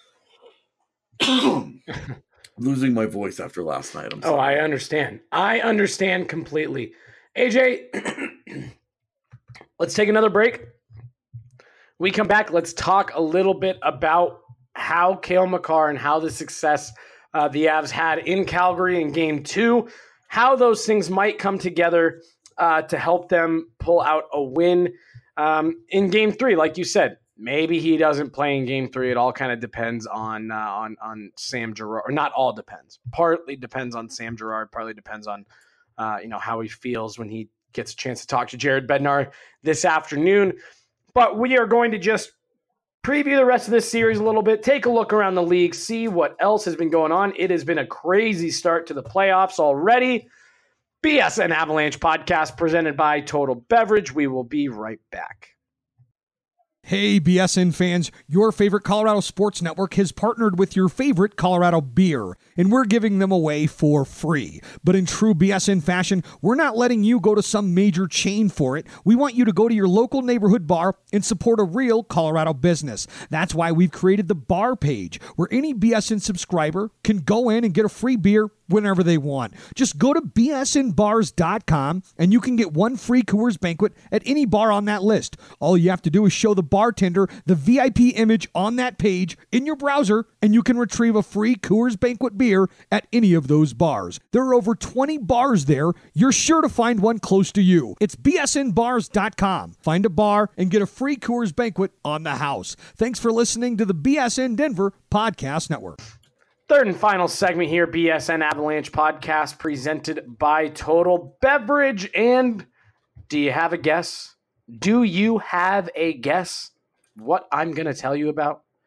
Losing my voice after last night. I'm sorry. Oh, I understand. I understand completely. AJ, let's take another break. We come back. Let's talk a little bit about how Cale Makar and how the success the Avs had in Calgary in Game 2, how those things might come together to help them pull out a win in Game 3. Like you said, maybe he doesn't play in Game 3. It all kind of depends on Sam Girard, or not all depends. Partly depends on Sam Girard. Partly depends on how he feels when he gets a chance to talk to Jared Bednar this afternoon. But we are going to just preview the rest of this series a little bit, take a look around the league, see what else has been going on. It has been a crazy start to the playoffs already. BSN Avalanche podcast presented by Total Beverage. We will be right back. Hey, BSN fans, your favorite Colorado Sports Network has partnered with your favorite Colorado beer, and we're giving them away for free. But in true BSN fashion, we're not letting you go to some major chain for it. We want you to go to your local neighborhood bar and support a real Colorado business. That's why we've created the bar page, where any BSN subscriber can go in and get a free beer whenever they want. Just go to bsnbars.com and you can get one free Coors Banquet at any bar on that list. All you have to do is show the bartender the VIP image on that page in your browser, and you can retrieve a free Coors Banquet beer at any of those bars. There are over 20 bars there. You're sure to find one close to you. It's bsnbars.com. Find a bar and get a free Coors Banquet on the house. Thanks for listening to the BSN Denver Podcast Network. Third and final segment here, BSN Avalanche podcast presented by Total Beverage. And do you have a guess? Do you have a guess what I'm going to tell you about?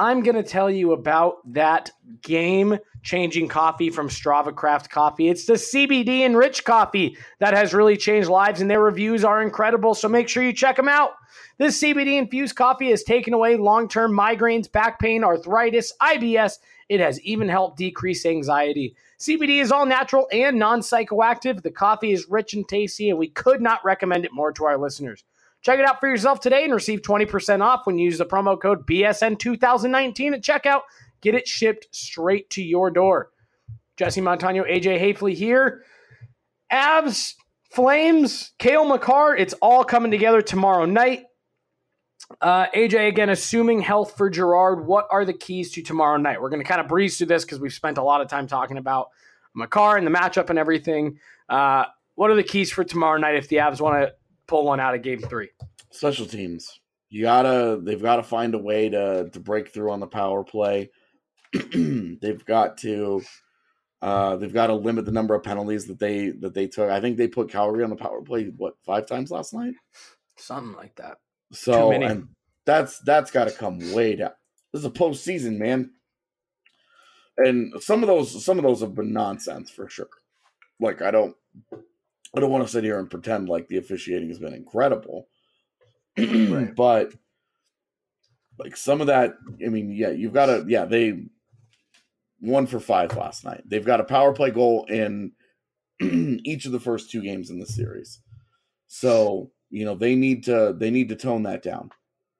I'm going to tell you about that game-changing coffee from Strava Craft Coffee. It's the CBD Enriched coffee that has really changed lives, and their reviews are incredible, so make sure you check them out. This CBD-infused coffee has taken away long-term migraines, back pain, arthritis, IBS. It has even helped decrease anxiety. CBD is all natural and non-psychoactive. The coffee is rich and tasty, and we could not recommend it more to our listeners. Check it out for yourself today and receive 20% off when you use the promo code BSN2019 at checkout. Get it shipped straight to your door. Jesse Montano, AJ Hafley here. Avs, Flames, Cale Makar, it's all coming together tomorrow night. AJ, again, assuming health for Girard, what are the keys to tomorrow night? We're going to kind of breeze through this because we've spent a lot of time talking about Makar and the matchup and everything. What are the keys for tomorrow night if the Avs want to pull one out of Game 3? Special teams. They've got to find a way to break through on the power play. They've got to limit the number of penalties that they took. I think they put Calgary on the power play 5 times last night, something like that. So and that's got to come way down. This is a postseason, man, and some of those have been nonsense for sure. Like I don't want to sit here and pretend like the officiating has been incredible, right. But like some of that, I mean, you've got to, they 1 for 5 last night. They've got a power play goal in each of the first 2 games in the series. So, they need to tone that down.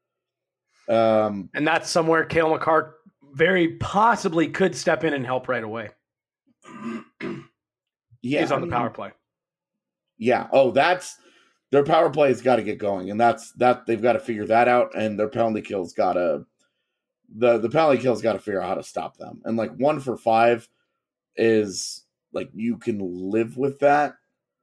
And that's somewhere Cale Makar very possibly could step in and help right away. He's on the power play. Yeah. Oh, that's their power play has got to get going, and that's they've got to figure that out. And their penalty kill's got to the penalty kill's got to figure out how to stop them. And like 1 for 5 is like you can live with that,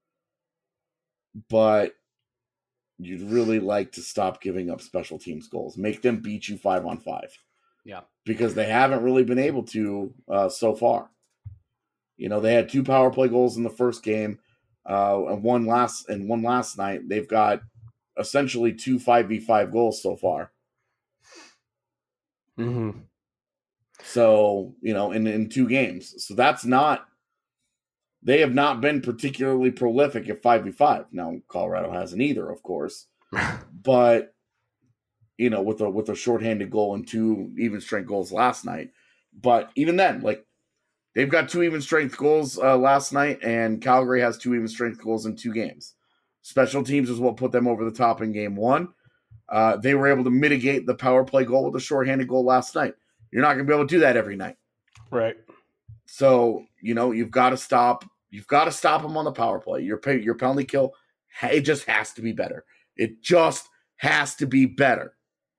but you'd really like to stop giving up special teams goals. Make them beat you 5-on-5. Yeah, because they haven't really been able to so far. They had 2 power play goals in the first game. And one last night. They've got essentially 2 5v5 goals so far. Mm-hmm. So, in 2 games. So they have not been particularly prolific at 5v5. Now, Colorado hasn't either, of course. But, with a shorthanded goal and 2 even strength goals last night. But even then, they've got 2 even strength goals last night, and Calgary has 2 even strength goals in 2 games. Special teams is what put them over the top in Game 1. They were able to mitigate the power play goal with a shorthanded goal last night. You're not going to be able to do that every night. Right. So, you've got to stop. You've got to stop them on the power play. Your penalty kill, it just has to be better. It just has to be better.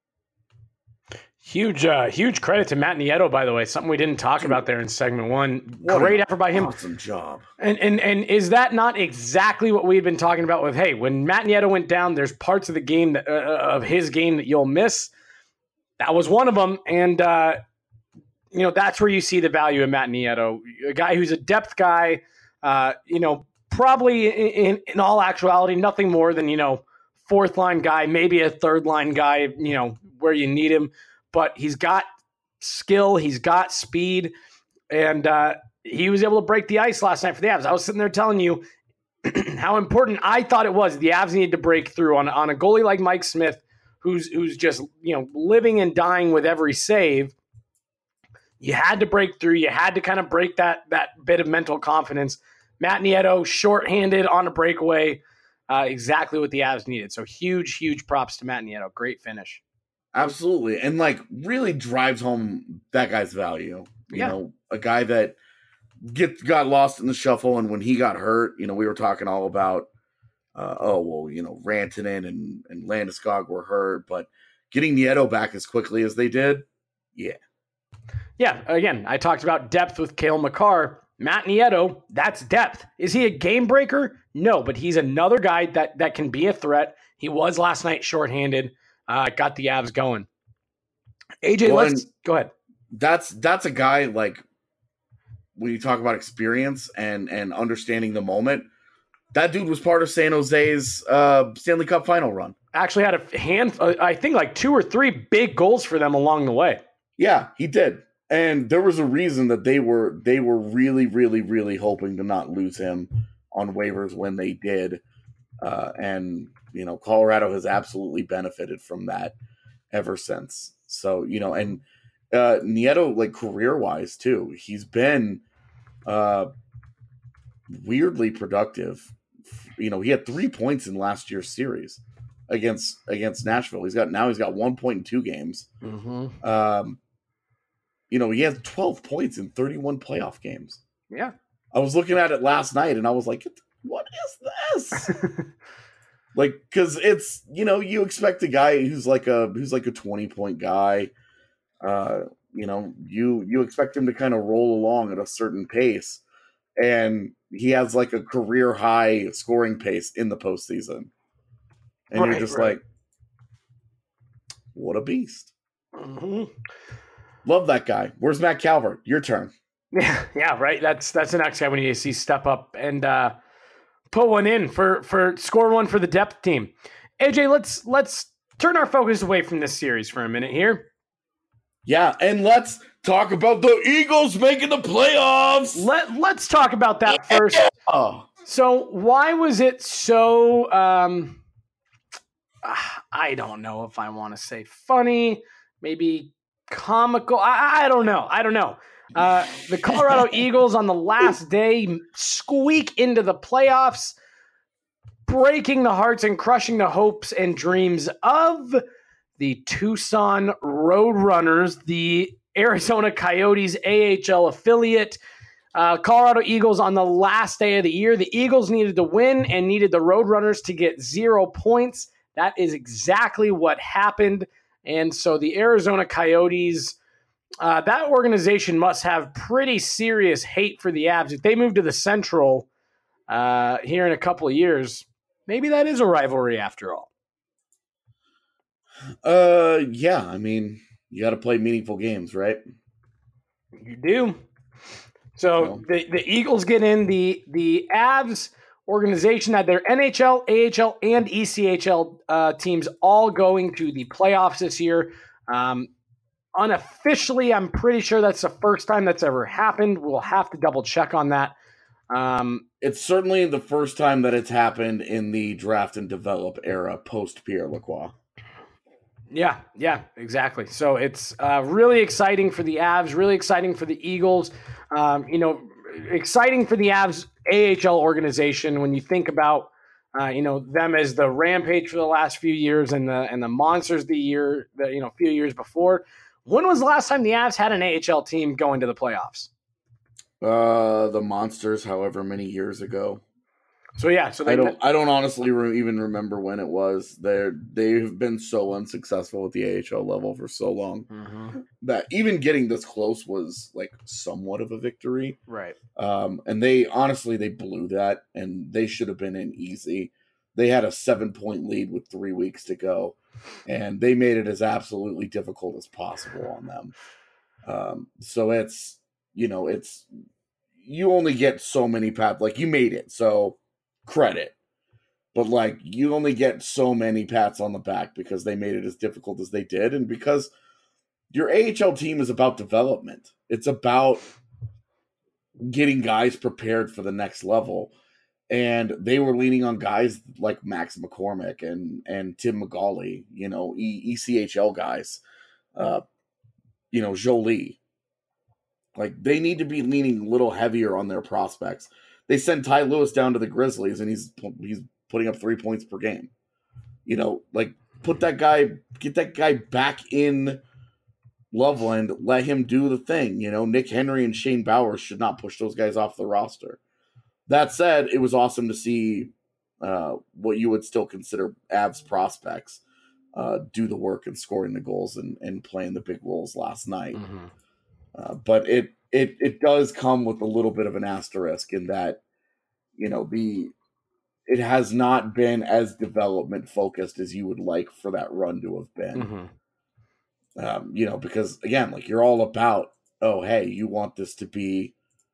Huge credit to Matt Nieto, by the way. Something we didn't talk about there in segment 1. Great effort by him. Awesome job. And is that not exactly what we've been talking about with, hey, when Matt Nieto went down, there's parts of the game of his game that you'll miss. That was one of them. And, that's where you see the value of Matt Nieto, a guy who's a depth guy, probably in all actuality, nothing more than, 4th line guy, maybe a 3rd line guy, where you need him. But he's got skill, he's got speed, and he was able to break the ice last night for the Avs. I was sitting there telling you how important I thought it was. The Avs needed to break through on a goalie like Mike Smith, who's just living and dying with every save. You had to break through. You had to kind of break that bit of mental confidence. Matt Nieto, shorthanded on a breakaway, exactly what the Avs needed. So huge props to Matt Nieto. Great finish. Absolutely. And really drives home that guy's value. You know, a guy that got lost in the shuffle. And when he got hurt, we were talking all about, Rantanen and Landeskog were hurt, but getting Nieto back as quickly as they did. Yeah. Yeah. Again, I talked about depth with Cale Makar. Matt Nieto, that's depth. Is he a game breaker? No, but he's another guy that can be a threat. He was last night shorthanded. Got the Avs going. AJ, let's go ahead. That's a guy when you talk about experience and understanding the moment. That dude was part of San Jose's Stanley Cup final run. Actually had a I think 2 or 3 big goals for them along the way. Yeah, he did. And there was a reason that they were really, really, really hoping to not lose him on waivers when they did. And, Colorado has absolutely benefited from that ever since. So, and Nieto, like career-wise too, he's been weirdly productive. He had 3 points in last year's series against Nashville. He's got 1 point in 2 games. Mm-hmm. He has 12 points in 31 playoff games. Yeah. I was looking at it last night and I was like, what is this? Like, cause it's, you expect a guy who's like a 20-point guy. You expect him to kind of roll along at a certain pace, and he has like a career high scoring pace in the postseason. And you're just like, what a beast. Mm-hmm. Love that guy. Where's Matt Calvert? Your turn. Yeah, right. That's the next guy when you see step up and put one in for score one for the depth team. AJ, let's turn our focus away from this series for a minute here. Yeah, and let's talk about the Eagles making the playoffs. Let's talk about that first. So why was it so I don't know if I want to say funny, maybe comical. I don't know. The Colorado Eagles on the last day squeak into the playoffs, breaking the hearts and crushing the hopes and dreams of the Tucson Roadrunners, the Arizona Coyotes AHL affiliate. Colorado Eagles on the last day of the year. The Eagles needed to win and needed the Roadrunners to get 0 points. That is exactly what happened. And so the Arizona Coyotes, that organization must have pretty serious hate for the Avs. If they move to the Central here in a couple of years, maybe that is a rivalry after all. Yeah, I mean, you got to play meaningful games, right? You do. So the Eagles get in. The Avs organization had their NHL, AHL, and ECHL teams all going to the playoffs this year. Unofficially, I'm pretty sure that's the first time that's ever happened. We'll have to double check on that. It's certainly the first time that it's happened in the draft and develop era post Pierre Lacroix. Yeah, exactly. So it's really exciting for the Avs, really exciting for the Eagles. Exciting for the Avs AHL organization when you think about them as the Rampage for the last few years and the Monsters few years before. When was the last time the Avs had an AHL team going to the playoffs? The Monsters, however many years ago. So I don't honestly even remember when it was. They've been so unsuccessful at the AHL level for so long that even getting this close was like somewhat of a victory. Right. And they blew that, and they should have been in easy. They had a 7-point lead with 3 weeks to go, and they made it as absolutely difficult as possible on them. So it's you only get so many pats. Like, you made it, so credit. But, like, you only get so many pats on the back because they made it as difficult as they did, and because your AHL team is about development. It's about getting guys prepared for the next level. And they were leaning on guys like Max McCormick and Tim McGauley, ECHL guys, Jolie. Like, they need to be leaning a little heavier on their prospects. They send Ty Lewis down to the Grizzlies, and he's putting up 3 points per game. Get that guy back in Loveland, let him do the thing. Nick Henry and Shane Bowers should not push those guys off the roster. That said, it was awesome to see what you would still consider Avs prospects do the work and scoring the goals and playing the big roles last night. But it does come with a little bit of an asterisk in that, it has not been as development focused as you would like for that run to have been. Because again, like, you're all about, oh, hey, you want this to be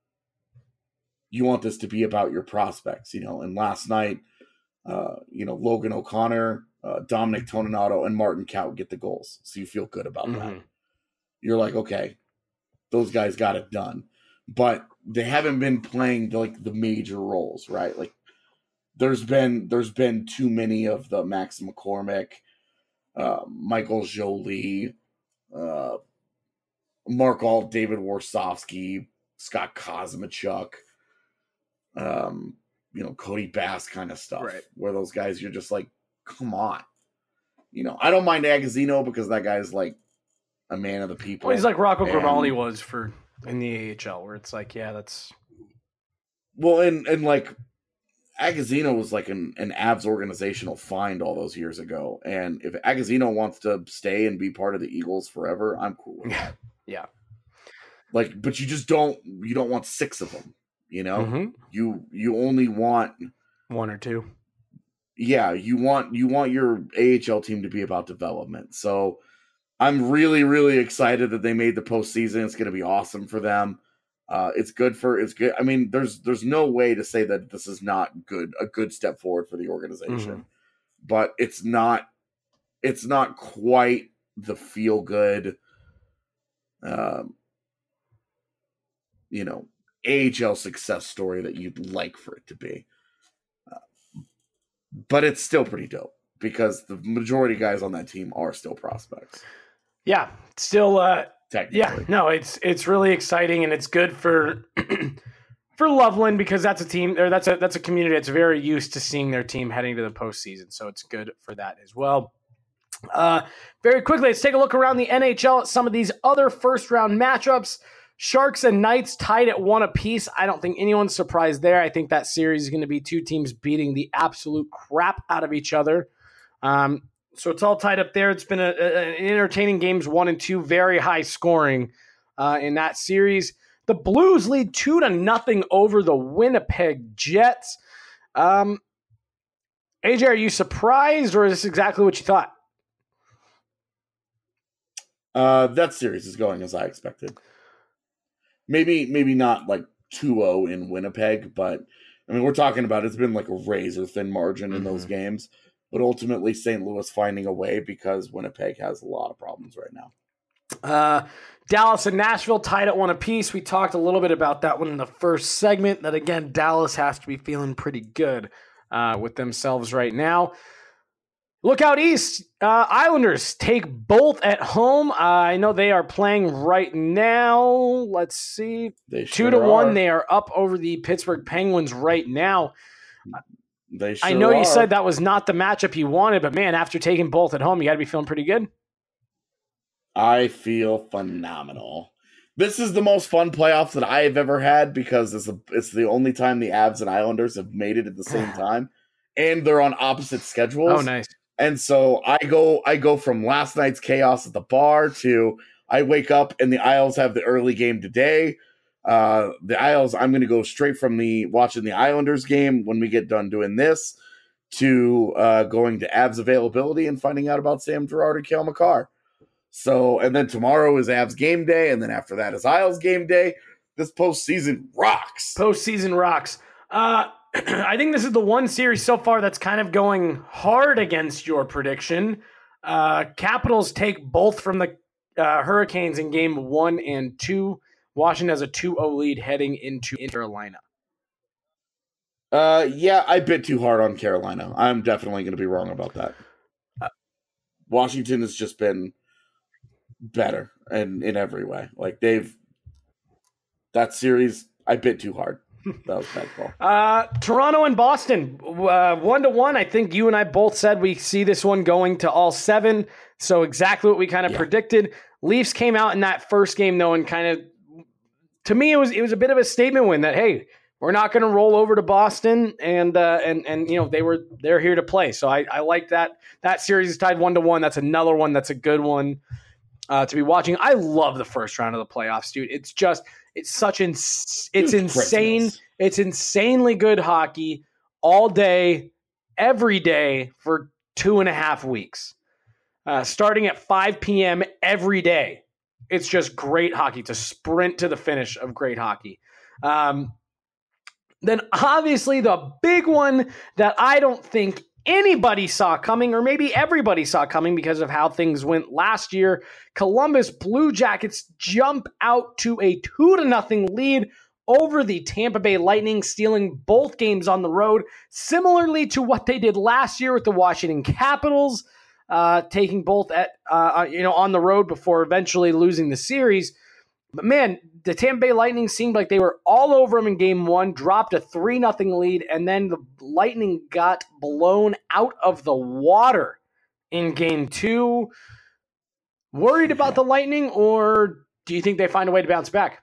about your prospects, and last night, Logan O'Connor, Dominic Toninato, and Martin Kaut get the goals. So you feel good about that. you're like, okay, those guys got it done. But they haven't been playing like the major roles, right? Like there's been too many of the Max McCormick, Michael Jolie, Mark Alt, David Warsofsky, Scott Kosmachuk, Cody Bass kind of stuff, Right. where those guys, you're just like, come on. I don't mind Agazino because that guy's like a man of the people. Well, he's like Rocco And- Grimaldi was in the AHL, where it's like, yeah, that's Well, and like Agazino was like an Avs organizational find all those years ago. And if Agazino wants to stay and be part of the Eagles forever, I'm cool with that. yeah. Like, but you don't want 6 of them, Mhm. You only want, One or two. yeah, you want your AHL team to be about development. So I'm really, really excited that they made the postseason. It's going to be awesome for them. It's good. I mean, there's no way to say that this is not a good step forward for the organization, but it's not quite the feel good, AHL success story that you'd like for it to be. But it's still pretty dope because the majority of guys on that team are still prospects. Yeah. Still, Technically. yeah, no, it's really exciting, and it's good for for Loveland because that's a team, or that's a community that's very used to seeing their team heading to the postseason. So it's good for that as well. Very quickly, let's take a look around the NHL at some of these other first round matchups. Sharks and Knights tied at 1 apiece. I don't think anyone's surprised there. I think that series is going to be 2 teams beating the absolute crap out of each other. So it's all tied up there. It's been an entertaining games 1 and 2, very high scoring in that series. The Blues lead 2-0 over the Winnipeg Jets. AJ, are you surprised, or is this exactly what you thought? That series is going as I expected. Maybe not like 2-0 in Winnipeg, but I mean, we're talking about it's been like a razor thin margin in those games. But ultimately, St. Louis finding a way because Winnipeg has a lot of problems right now. Dallas and Nashville tied at 1 apiece. We talked a little bit about that one in the first segment, that again, Dallas has to be feeling pretty good with themselves right now. Look out east. Islanders take both at home. I know they are playing right now. Let's see. They 2-1. are. They are up over the Pittsburgh Penguins right now. They sure I know you are. said that was not the matchup you wanted, but man, after taking both at home, you got to be feeling pretty good. I feel phenomenal. This is the most fun playoffs that I have ever had because it's the only time the Avs and Islanders have made it at the same time, and they're on opposite schedules. Oh, nice. And so I go from last night's chaos at the bar to I wake up and the Isles have the early game today. The Isles, I'm going to go straight from watching the Islanders game when we get done doing this to going to Avs availability and finding out about Sam Girard and Cale Makar. So, and then tomorrow is Avs game day, and then after that is Isles game day. This postseason rocks. Postseason rocks. I think this is the one series so far that's kind of going hard against your prediction. Capitals take both from the Hurricanes in game 1 and 2. Washington has a 2-0 lead heading into Carolina. Yeah, I bit too hard on Carolina. I'm definitely going to be wrong about that. Washington has just been better in every way. Like that series, I bit too hard. That was a bad call. Toronto and Boston, 1-1. I think you and I both said we see this one going to all 7. So exactly what we kind of predicted. Leafs came out in that first game though, and kind of, to me, it was a bit of a statement win that, hey, we're not going to roll over to Boston, and you know they're here to play. So I like that. That series is tied 1-1. That's another one that's a good one to be watching. I love the first round of the playoffs, dude. It's insane. Christmas. It's insanely good hockey all day, every day for 2.5 weeks, starting at 5 p.m. every day. It's just great hockey. It's a sprint to the finish of great hockey. Then obviously the big one that I don't think anybody saw coming, or maybe everybody saw coming because of how things went last year. Columbus Blue Jackets jump out to a 2-0 lead over the Tampa Bay Lightning, stealing both games on the road, similarly to what they did last year with the Washington Capitals, taking both on the road before eventually losing the series. But man, the Tampa Bay Lightning seemed like they were all over them in game one, dropped a 3-0 lead, and then the Lightning got blown out of the water in game two. Worried about the Lightning, or do you think they find a way to bounce back?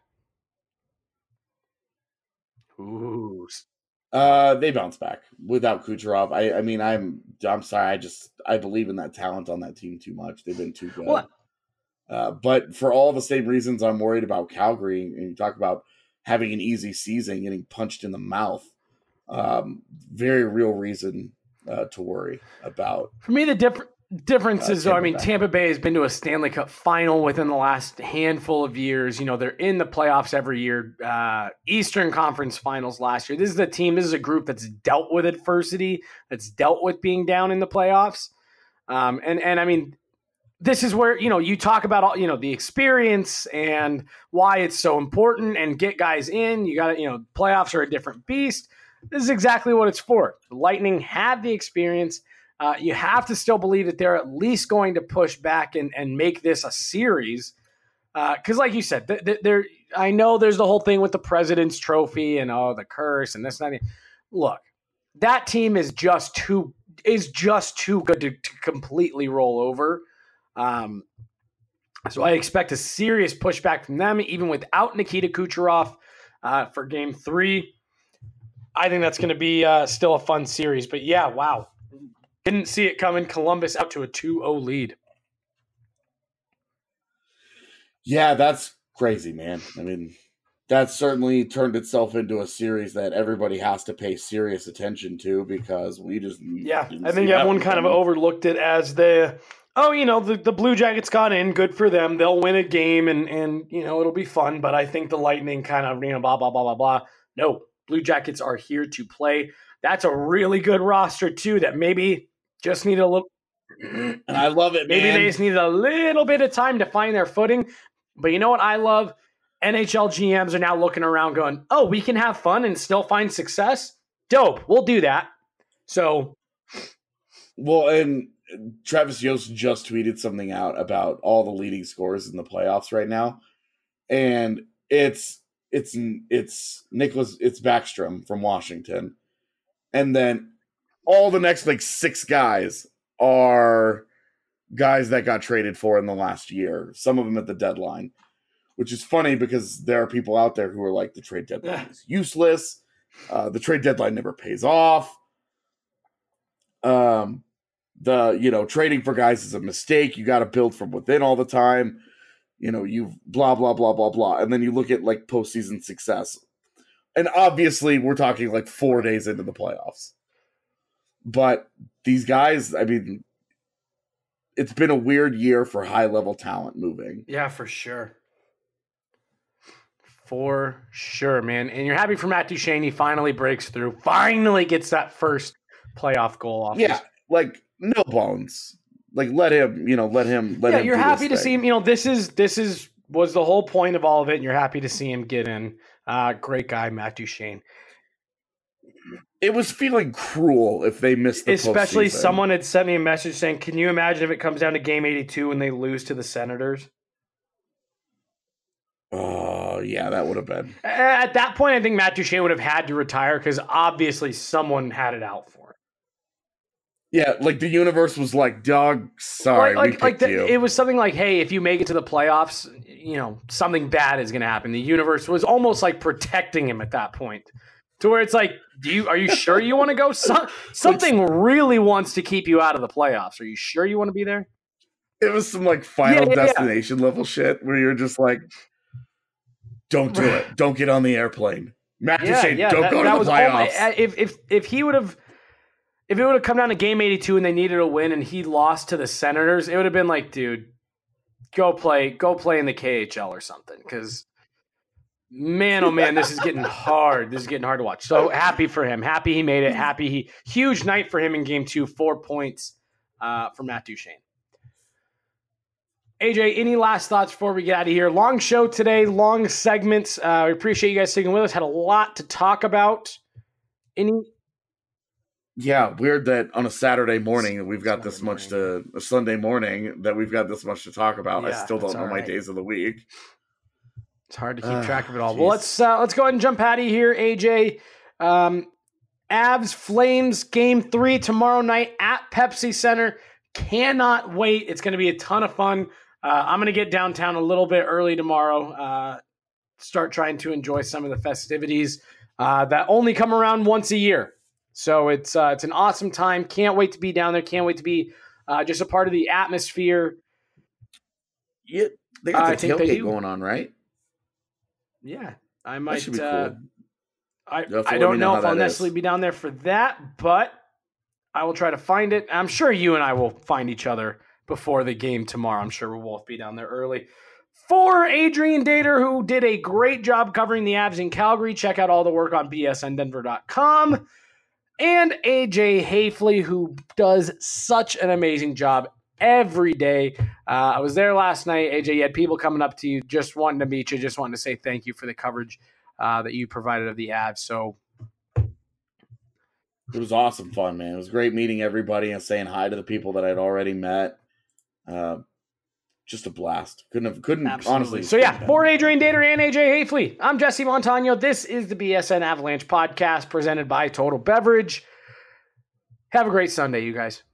Ooh. They bounce back without Kucherov. I mean, I'm sorry. I believe in that talent on that team too much. They've been too good. What? But for all the same reasons, I'm worried about Calgary. And you talk about having an easy season, getting punched in the mouth. Very real reason to worry about. For me, the difference is, Tampa Bay has been to a Stanley Cup final within the last handful of years. You know, they're in the playoffs every year. Eastern Conference Finals last year. This is a group that's dealt with adversity, that's dealt with being down in the playoffs. And I mean, this is where, you talk about all, the experience and why it's so important and get guys in. You got to, playoffs are a different beast. This is exactly what it's for. The Lightning have the experience. You have to still believe that they're at least going to push back and make this a series. Because like you said, I know there's the whole thing with the President's Trophy and the curse and this and that. Look, that team is just too good to completely roll over. So I expect a serious pushback from them, even without Nikita Kucherov for game 3. I think that's going to be still a fun series. But yeah, wow. Didn't see it coming. Columbus out to a 2-0 lead. Yeah, that's crazy, man. I mean, that certainly turned itself into a series that everybody has to pay serious attention to because we just... Yeah, I think everyone kind of overlooked it as the Blue Jackets got in. Good for them. They'll win a game and it'll be fun. But I think the Lightning kind of, blah, blah, blah, blah, blah. No, Blue Jackets are here to play. That's a really good roster, too, that maybe just need a little... And I love it, maybe man. they just need a little bit of time to find their footing. But you know what I love? NHL GMs are now looking around going, oh, we can have fun and still find success? Dope. We'll do that. So... Well, and Travis Yost just tweeted something out about all the leading scorers in the playoffs right now. And it's Backstrom from Washington. And then all the next 6 guys are guys that got traded for in the last year. Some of them at the deadline, which is funny because there are people out there who are like, the trade deadline is useless. The trade deadline never pays off. Trading for guys is a mistake. You got to build from within all the time. You blah, blah, blah, blah, blah. And then you look at postseason success. And obviously we're talking 4 days into the playoffs. But these guys, I mean, it's been a weird year for high-level talent moving. Yeah, for sure. For sure, man. And you're happy for Matt Duchene. He finally breaks through. Finally gets that first playoff goal off. Yeah, no bones. Let him. Yeah, you're happy to see him. This was the whole point of all of it, and you're happy to see him get in. Great guy, Matt Duchene. It was feeling cruel if they missed the Especially postseason. Someone had sent me a message saying, can you imagine if it comes down to game 82 and they lose to the Senators? Oh, yeah, that would have been. At that point, I think Matt Duchene would have had to retire because obviously someone had it out for him. Yeah, the universe was like, dog, sorry, we picked you. It was something like, hey, if you make it to the playoffs, something bad is going to happen. The universe was almost protecting him at that point. To where it's like, are you sure you want to go? Something really wants to keep you out of the playoffs. Are you sure you want to be there? It was some Final Destination level shit where you're just like, don't do it. Don't get on the airplane. Matt Duchene, don't go to the playoffs. If it would have come down to game 82 and they needed a win and he lost to the Senators, it would have been like, dude, go play in the KHL or something. Because Man, oh man, this is getting hard. This is getting hard to watch. So happy for him. Happy he made it. Huge night for him in game 2. 4 points for Matt Duchene. AJ, any last thoughts before we get out of here? Long show today, long segments. We appreciate you guys sticking with us. Had a lot to talk about. Yeah, weird that on a Saturday morning we've got this much to a Sunday morning that we've got this much to talk about. I still don't know my days of the week. It's hard to keep track of it all. Well, let's go ahead and jump out of here, AJ. Avs Flames game 3 tomorrow night at Pepsi Center. Cannot wait. It's going to be a ton of fun. I'm going to get downtown a little bit early tomorrow. Start trying to enjoy some of the festivities that only come around once a year. So it's an awesome time. Can't wait to be down there. Can't wait to be just a part of the atmosphere. Yeah, they got the tailgate going on, right? Yeah, I might. That should be cool. I don't know if I'll necessarily be down there for that, but I will try to find it. I'm sure you and I will find each other before the game tomorrow. I'm sure we'll both be down there early. For Adrian Dater, who did a great job covering the Avs in Calgary, check out all the work on bsndenver.com. And AJ Hafley, who does such an amazing job every day. I was there last night. AJ, you had people coming up to you, just wanting to meet you, just wanting to say thank you for the coverage that you provided of the Avs. So it was awesome fun, man. It was great meeting everybody and saying hi to the people that I'd already met. Just a blast. Couldn't honestly. So yeah, for Adrian Dater and AJ Hafley, I'm Jesse Montano. This is the BSN Avalanche podcast presented by Total Beverage. Have a great Sunday, you guys.